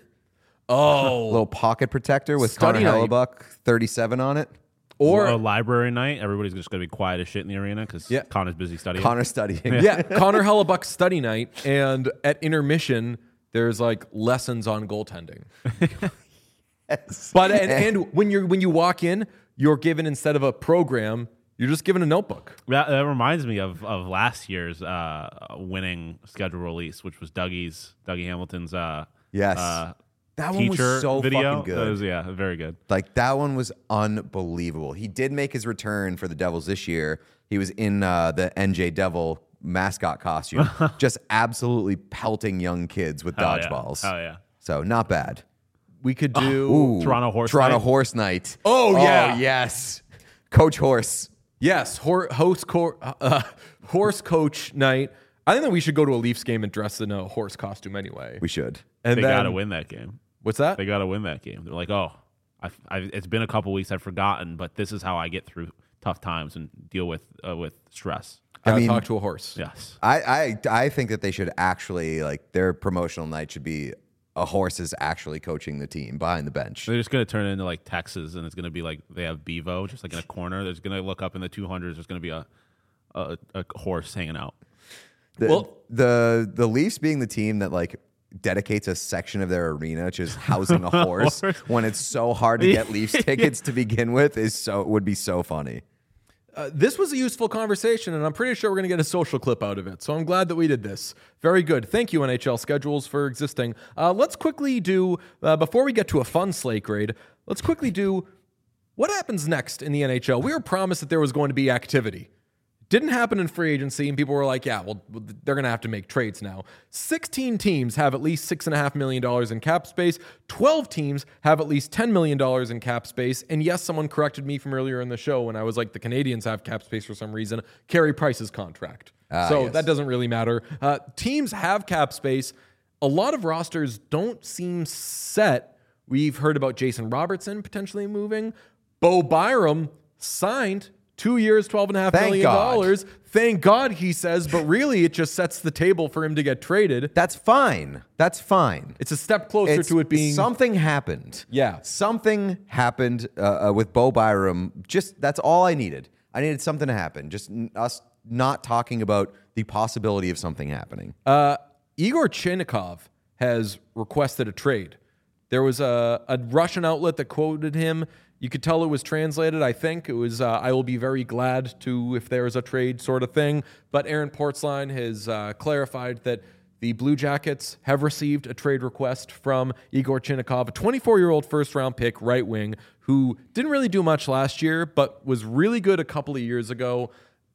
Oh. Little pocket protector with Study Connor night. Hellebuck, thirty-seven on it. or a Or library night. Everybody's just going to be quiet as shit in the arena because Yeah. Connor's busy studying. Connor studying. yeah, Connor Hellebuck study night, and at intermission there's like lessons on goaltending. Yes. But and, and when you're when you walk in, you're given instead of a program, you're just given a notebook. That, that reminds me of, of last year's uh, winning schedule release, which was Dougie's Dougie Hamilton's uh, Yes. uh, That one was teacher so video. fucking good. That was, yeah, very good. Like that one was unbelievable. He did make his return for the Devils this year. He was in uh, the N J Devil mascot costume, just absolutely pelting young kids with Hell yeah. dodgeballs. Hell yeah. So not bad. We could do Ooh, Toronto Horse Toronto Night. Horse Night. Oh, yeah. yes, Coach Horse. yes, hor- host cor- uh, horse coach night. I think that we should go to a Leafs game and dress in a horse costume anyway. We should. and They then, got to win that game. What's that? They got to win that game. They're like, oh, I've, I've, it's been a couple weeks. I've forgotten, but this is how I get through tough times and deal with uh, with stress. Gotta I mean- talk to a horse. Yes. I, I I think that they should actually like their promotional night should be a horse is actually coaching the team behind the bench. They're just going to turn it into like Texas, and it's going to be like they have Bevo, just like in a corner. There's going to look up in the two hundreds. There's going to be a, a a horse hanging out. The, Well- the the Leafs being the team that like dedicates a section of their arena to just housing a horse when it's so hard to get Leafs tickets to begin with is so would be so funny. Uh, this was a useful conversation, and I'm pretty sure we're going to get a social clip out of it. So I'm glad that we did this. Very good. Thank you, N H L schedules, for existing. Uh, let's quickly do, uh, before we get to a fun slate grade, let's quickly do what happens next in the N H L. We were promised that there was going to be activity. Didn't happen in free agency, and people were like, yeah, well, they're going to have to make trades now. sixteen teams have at least six point five million dollars in cap space. twelve teams have at least ten million dollars in cap space. And yes, someone corrected me from earlier in the show when I was like, the Canadians have cap space for some reason. Carey Price's contract. Ah, so yes. that doesn't really matter. Uh, teams have cap space. A lot of rosters don't seem set. We've heard about Jason Robertson potentially moving. Bo Byram signed two years, twelve and a half Thank million God. dollars. Thank God, he says, but really it just sets the table for him to get traded. That's fine. That's fine. It's a step closer It's- to it being something happened. Yeah. Something happened uh, uh, with Bo Byram. Just that's all I needed. I needed something to happen. Just n- us not talking about the possibility of something happening. Uh, Igor Chinnikov has requested a trade. There was a, a Russian outlet that quoted him. You could tell it was translated. I think it was, uh, I will be very glad to if there is a trade sort of thing. But Aaron Portzline has uh, clarified that the Blue Jackets have received a trade request from Igor Chinnikov, a twenty-four-year-old first-round pick right wing who didn't really do much last year, but was really good a couple of years ago.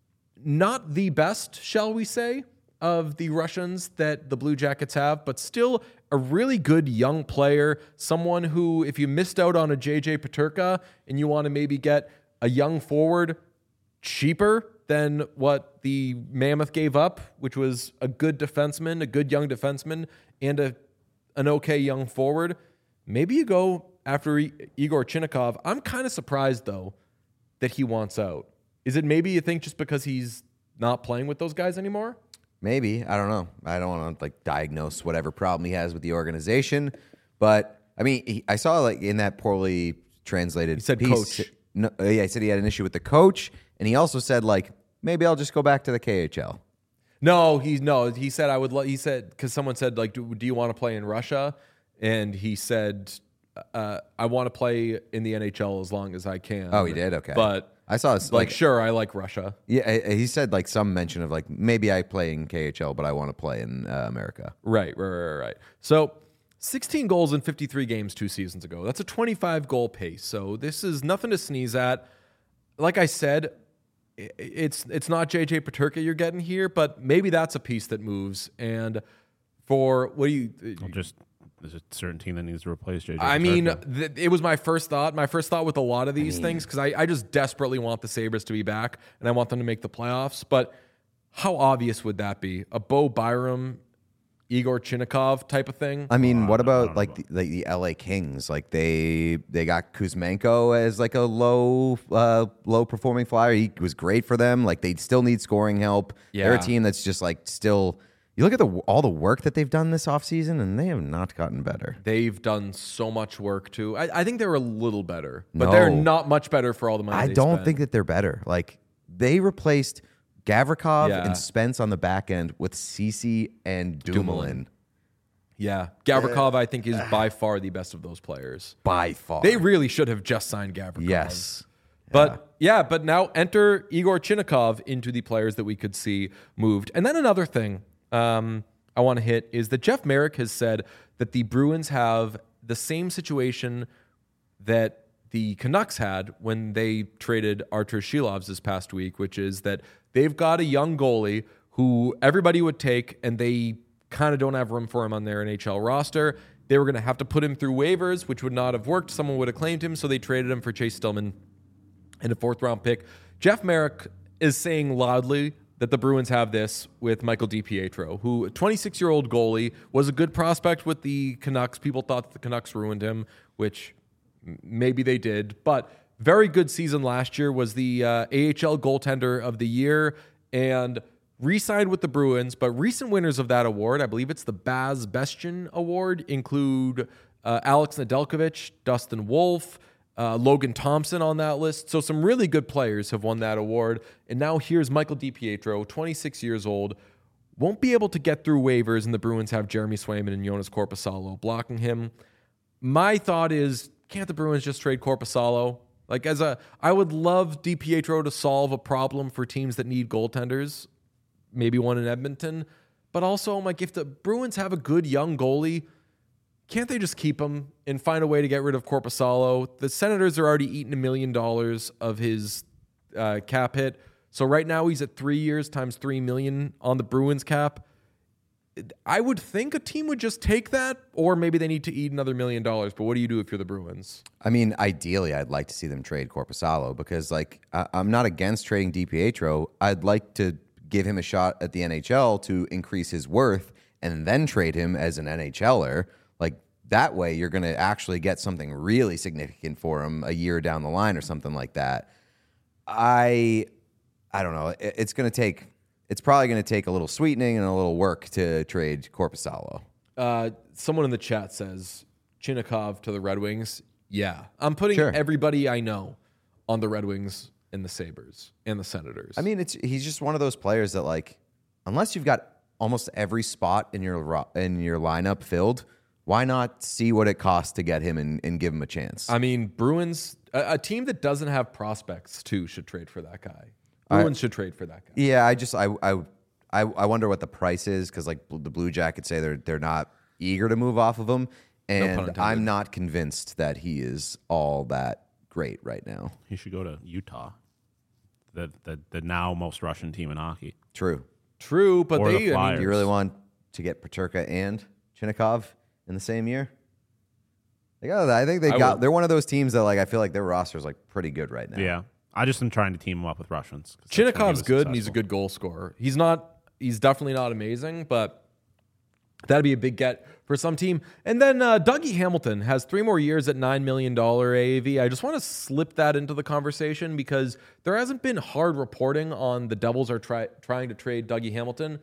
Not the best, shall we say, of the Russians that the Blue Jackets have, but still a really good young player, someone who, if you missed out on a J J Peterka and you want to maybe get a young forward cheaper than what the Mammoth gave up, which was a good defenseman, a good young defenseman, and a an okay young forward, maybe you go after I- Igor Chinnikov. I'm kind of surprised, though, that he wants out. Is it maybe you think just because he's not playing with those guys anymore? Maybe. I don't know. I don't want to like diagnose whatever problem he has with the organization, but I mean, he, I saw like in that poorly translated He said piece, coach. No, uh, yeah, he said he had an issue with the coach, and he also said like maybe I'll just go back to the K H L. No, he no. He said I would. Lo- he said because someone said like, do, do you want to play in Russia? And he said, uh, I want to play in the N H L as long as I can. Oh, he did? Okay. But I saw his, like, like sure, I like Russia. yeah, I- he said like some mention of like maybe I play in K H L, but I want to play in uh, America. Right, right, right, right. So, sixteen goals in fifty-three games two seasons ago. That's a twenty-five goal pace. So this is nothing to sneeze at. Like I said, i- it's it's not J J Peterka you're getting here, but maybe that's a piece that moves. And for what do you? I'll just there's a certain team that needs to replace J J. I mean, Peterka. th- it was my first thought. My first thought with a lot of these things, because I, I just desperately want the Sabres to be back and I want them to make the playoffs. But how obvious would that be? A Bo Byram, Igor Chinnikov type of thing? I mean, what about like the, like the L A Kings? Like they they got Kuzmenko as like a low uh, low performing flyer. He was great for them. Like they still need scoring help. They're a Yeah. team that's just like still. You look at the all the work that they've done this offseason, and they have not gotten better. They've done so much work too. I, I think they were a little better, but they're No. not much better for all the money I they don't spent. think that they're better. Like they replaced Gavrikov Yeah. and Spence on the back end with Cece and Dumoulin, Yeah, Gavrikov, I think, is by far the best of those players. by far. They really should have just signed Gavrikov. yes. But yeah, but now enter Igor Chinnikov into the players that we could see moved. And then another thing um, I want to hit is that Jeff Merrick has said that the Bruins have the same situation that the Canucks had when they traded Artur Shilovs this past week, which is that they've got a young goalie who everybody would take, and they kind of don't have room for him on their N H L roster. They were going to have to put him through waivers, which would not have worked. Someone would have claimed him, so they traded him for Chase Stillman and a fourth round pick. Jeff Merrick is saying loudly that the Bruins have this with Michael DiPietro, who, a twenty-six-year-old goalie, was a good prospect with the Canucks. People thought that the Canucks ruined him, which m- maybe they did. But very good season last year, was the uh, A H L goaltender of the year, and re-signed with the Bruins, but recent winners of that award, I believe it's the Baz Bestien Award, include uh, Alex Nedeljkovic, Dustin Wolf, uh, Logan Thompson on that list. So some really good players have won that award. And now here's Michael DiPietro, twenty-six years old, won't be able to get through waivers, and the Bruins have Jeremy Swayman and Jonas Korpisalo blocking him. My thought is, can't the Bruins just trade Korpisalo? Like, as a, I would love DiPietro to solve a problem for teams that need goaltenders, maybe one in Edmonton. But also, like, if the Bruins have a good young goalie, can't they just keep him and find a way to get rid of Korpisalo? The Senators are already eating a million dollars of his uh, cap hit. So right now he's at three years times three million on the Bruins cap. I would think a team would just take that, or maybe they need to eat another million dollars. But what do you do if you're the Bruins? I mean, ideally, I'd like to see them trade Korpisalo because, like, I- I'm not against trading DiPietro. I'd like to give him a shot at the N H L to increase his worth and then trade him as an NHLer. Like, that way you're going to actually get something really significant for him a year down the line or something like that. I, I don't know. It- It's going to take... It's probably going to take a little sweetening and a little work to trade Korpisalo. Uh, someone in the chat says Chinnikov to the Red Wings. Yeah, I'm putting Sure. everybody I know on the Red Wings and the Sabres and the Senators. I mean, it's he's just one of those players that, like, unless you've got almost every spot in your ro- in your lineup filled, why not see what it costs to get him and, and give him a chance? I mean, Bruins, a, a team that doesn't have prospects too should trade for that guy. Bruins should trade for that guy. Yeah, I just I I I, I wonder what the price is because, like, the Blue Jackets say they're they're not eager to move off of him, and intended. I'm not convinced that he is all that great right now. He should go to Utah, the the, the now most Russian team in hockey. True. True, but Or the they, I Flyers. mean, Do you really want to get Peterka and Chinnikov in the same year? They got, I think they I got. would. They're one of those teams that, like, I feel like their roster is, like, pretty good right now. Yeah, I just am trying to team him up with Russians. 'cause that's when he Chinnikov's was good and he's a successful. good goal scorer. He's not. He's definitely not amazing, but that'd be a big get for some team. And then uh, Dougie Hamilton has three more years at nine million dollars A A V. I just want to slip that into the conversation because there hasn't been hard reporting on the Devils are try, trying to trade Dougie Hamilton.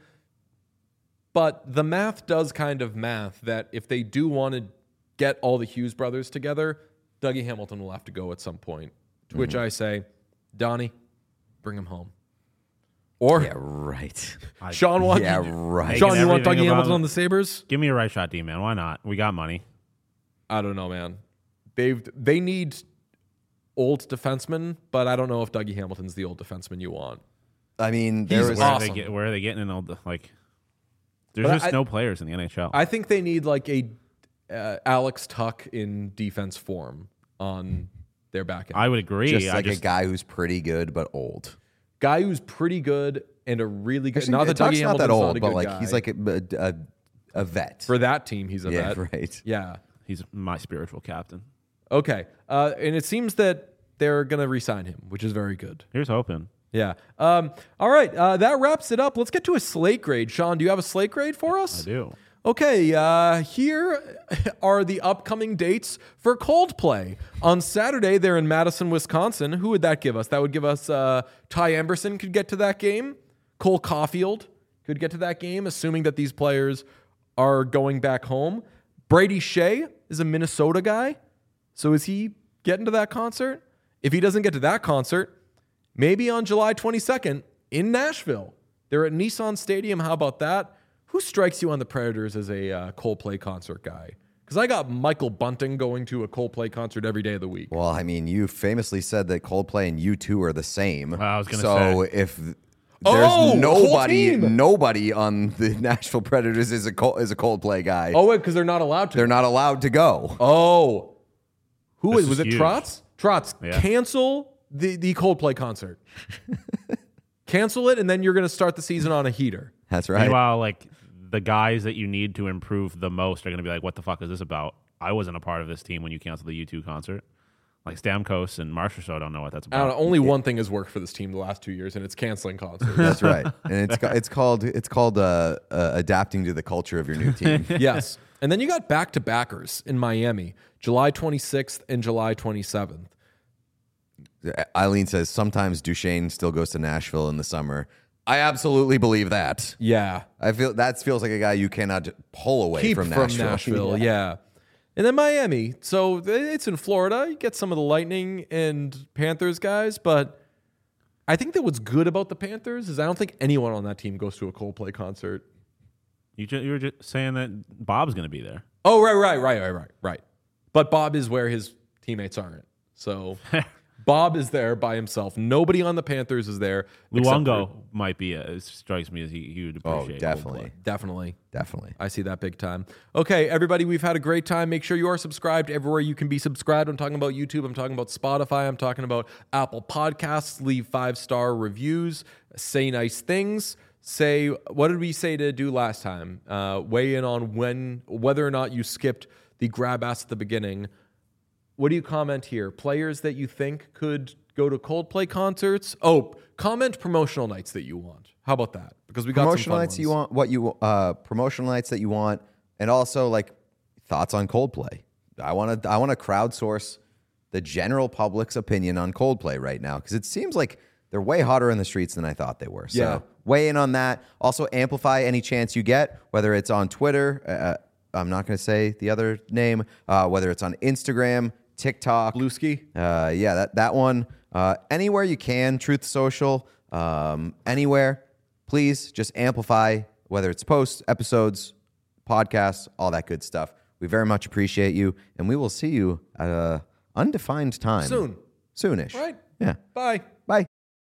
But the math does kind of math that if they do want to get all the Hughes brothers together, Dougie Hamilton will have to go at some point. To which I say, Donnie, bring him home. Or Yeah, right. Sean wants Yeah, right. Sean, you want Everything Dougie about Hamilton it. on the Sabres? Give me a right shot, D man. Why not? We got money. I don't know, man. They've they need old defensemen, but I don't know if Dougie Hamilton's the old defenseman you want. I mean, there He's was Where awesome. are they get? Where are they getting in all the like? There's But just I- no players in the N H L. I think they need like a uh, Alex Tuck in defense form on their back end. I would agree. just I like just, a guy who's pretty good but old. Guy who's pretty good and a really good. Actually, not that Tuck's Dougie not Hamilton's that old, not a but good like guy. he's like a, a, a vet. for that team, he's a yeah, vet. right. Yeah. he's my spiritual captain. Okay. Uh, and it seems that they're going to re-sign him, which is very good. Here's hoping. Yeah. Um, all right. Uh, that wraps it up. Let's get to a slate grade. Sean, do you have a slate grade for us? I do. Okay, uh, here are the upcoming dates for Coldplay. On Saturday, they're in Madison, Wisconsin. Who would that give us? That would give us uh, Ty Emberson could get to that game. Cole Caulfield could get to that game, assuming that these players are going back home. Brady Shea is a Minnesota guy. So is he getting to that concert? If he doesn't get to that concert, maybe on July twenty-second in Nashville. They're at Nissan Stadium. How about that? Who strikes you on the Predators as a uh, Coldplay concert guy? Because I got Michael Bunting going to a Coldplay concert every day of the week. Well, I mean, you famously said that Coldplay and U two are the same. I was gonna so say. if th- Oh, there's whole nobody, team. nobody on the Nashville Predators is a Col- is a Coldplay guy. Oh, wait, because they're not allowed to. They're not allowed to go. Oh. Who This is, was is it huge. Trotz? Trotz, Yeah. cancel the, the Coldplay concert. Cancel it, and then you're going to start the season on a heater. That's right. Meanwhile, like the guys that you need to improve the most are going to be like, "What the fuck is this about? I wasn't a part of this team when you canceled the U two concert." Like Stamkos and Marchessault don't know what that's I don't about. know. Only one thing has worked for this team the last two years, and it's canceling concerts. That's right. And it's ca- it's called it's called uh, uh, adapting to the culture of your new team. Yes. And then you got back-to-backers in Miami, July twenty-sixth and July twenty-seventh. Eileen says sometimes Duchesne still goes to Nashville in the summer. I absolutely believe that. Yeah. I feel that feels like a guy you cannot pull away Keep from Nashville. Nashville, yeah. And then Miami. So it's in Florida. You get some of the Lightning and Panthers guys, but I think that what's good about the Panthers is I don't think anyone on that team goes to a Coldplay concert. You, ju- you were just saying that Bob's going to be there. Oh, right, right, right, right, right, right. But Bob is where his teammates aren't. So Bob is there by himself. Nobody on the Panthers is there. except Luongo for- might be. A, it strikes me as he, he would Oh, appreciate. definitely. Coldplay. Definitely. Definitely. I see that big time. Okay, everybody, we've had a great time. Make sure you are subscribed everywhere you can be subscribed. I'm talking about YouTube. I'm talking about Spotify. I'm talking about Apple Podcasts. Leave five-star reviews. Say nice things. Say, what did we say to do last time? Uh, weigh in on when, whether or not you skipped the grab ass at the beginning. What do you comment here? Players that you think could go to Coldplay concerts? Oh, comment promotional nights that you want. How about that? Because we got Promotional some fun nights ones. you want, what you uh, promotional nights that you want, and also like thoughts on Coldplay. I want to I want to crowdsource the general public's opinion on Coldplay right now because it seems like they're way hotter in the streets than I thought they were. So Yeah. weigh in on that. Also amplify any chance you get, whether it's on Twitter. Uh, I'm not going to say the other name. Uh, whether it's on Instagram, TikTok, Blueski? Uh, yeah, that that one. Uh, anywhere you can, Truth Social, um, anywhere. Please just amplify, whether it's posts, episodes, podcasts, all that good stuff. We very much appreciate you, and we will see you at a undefined time Soon. soonish. Right. Yeah. Bye. Bye.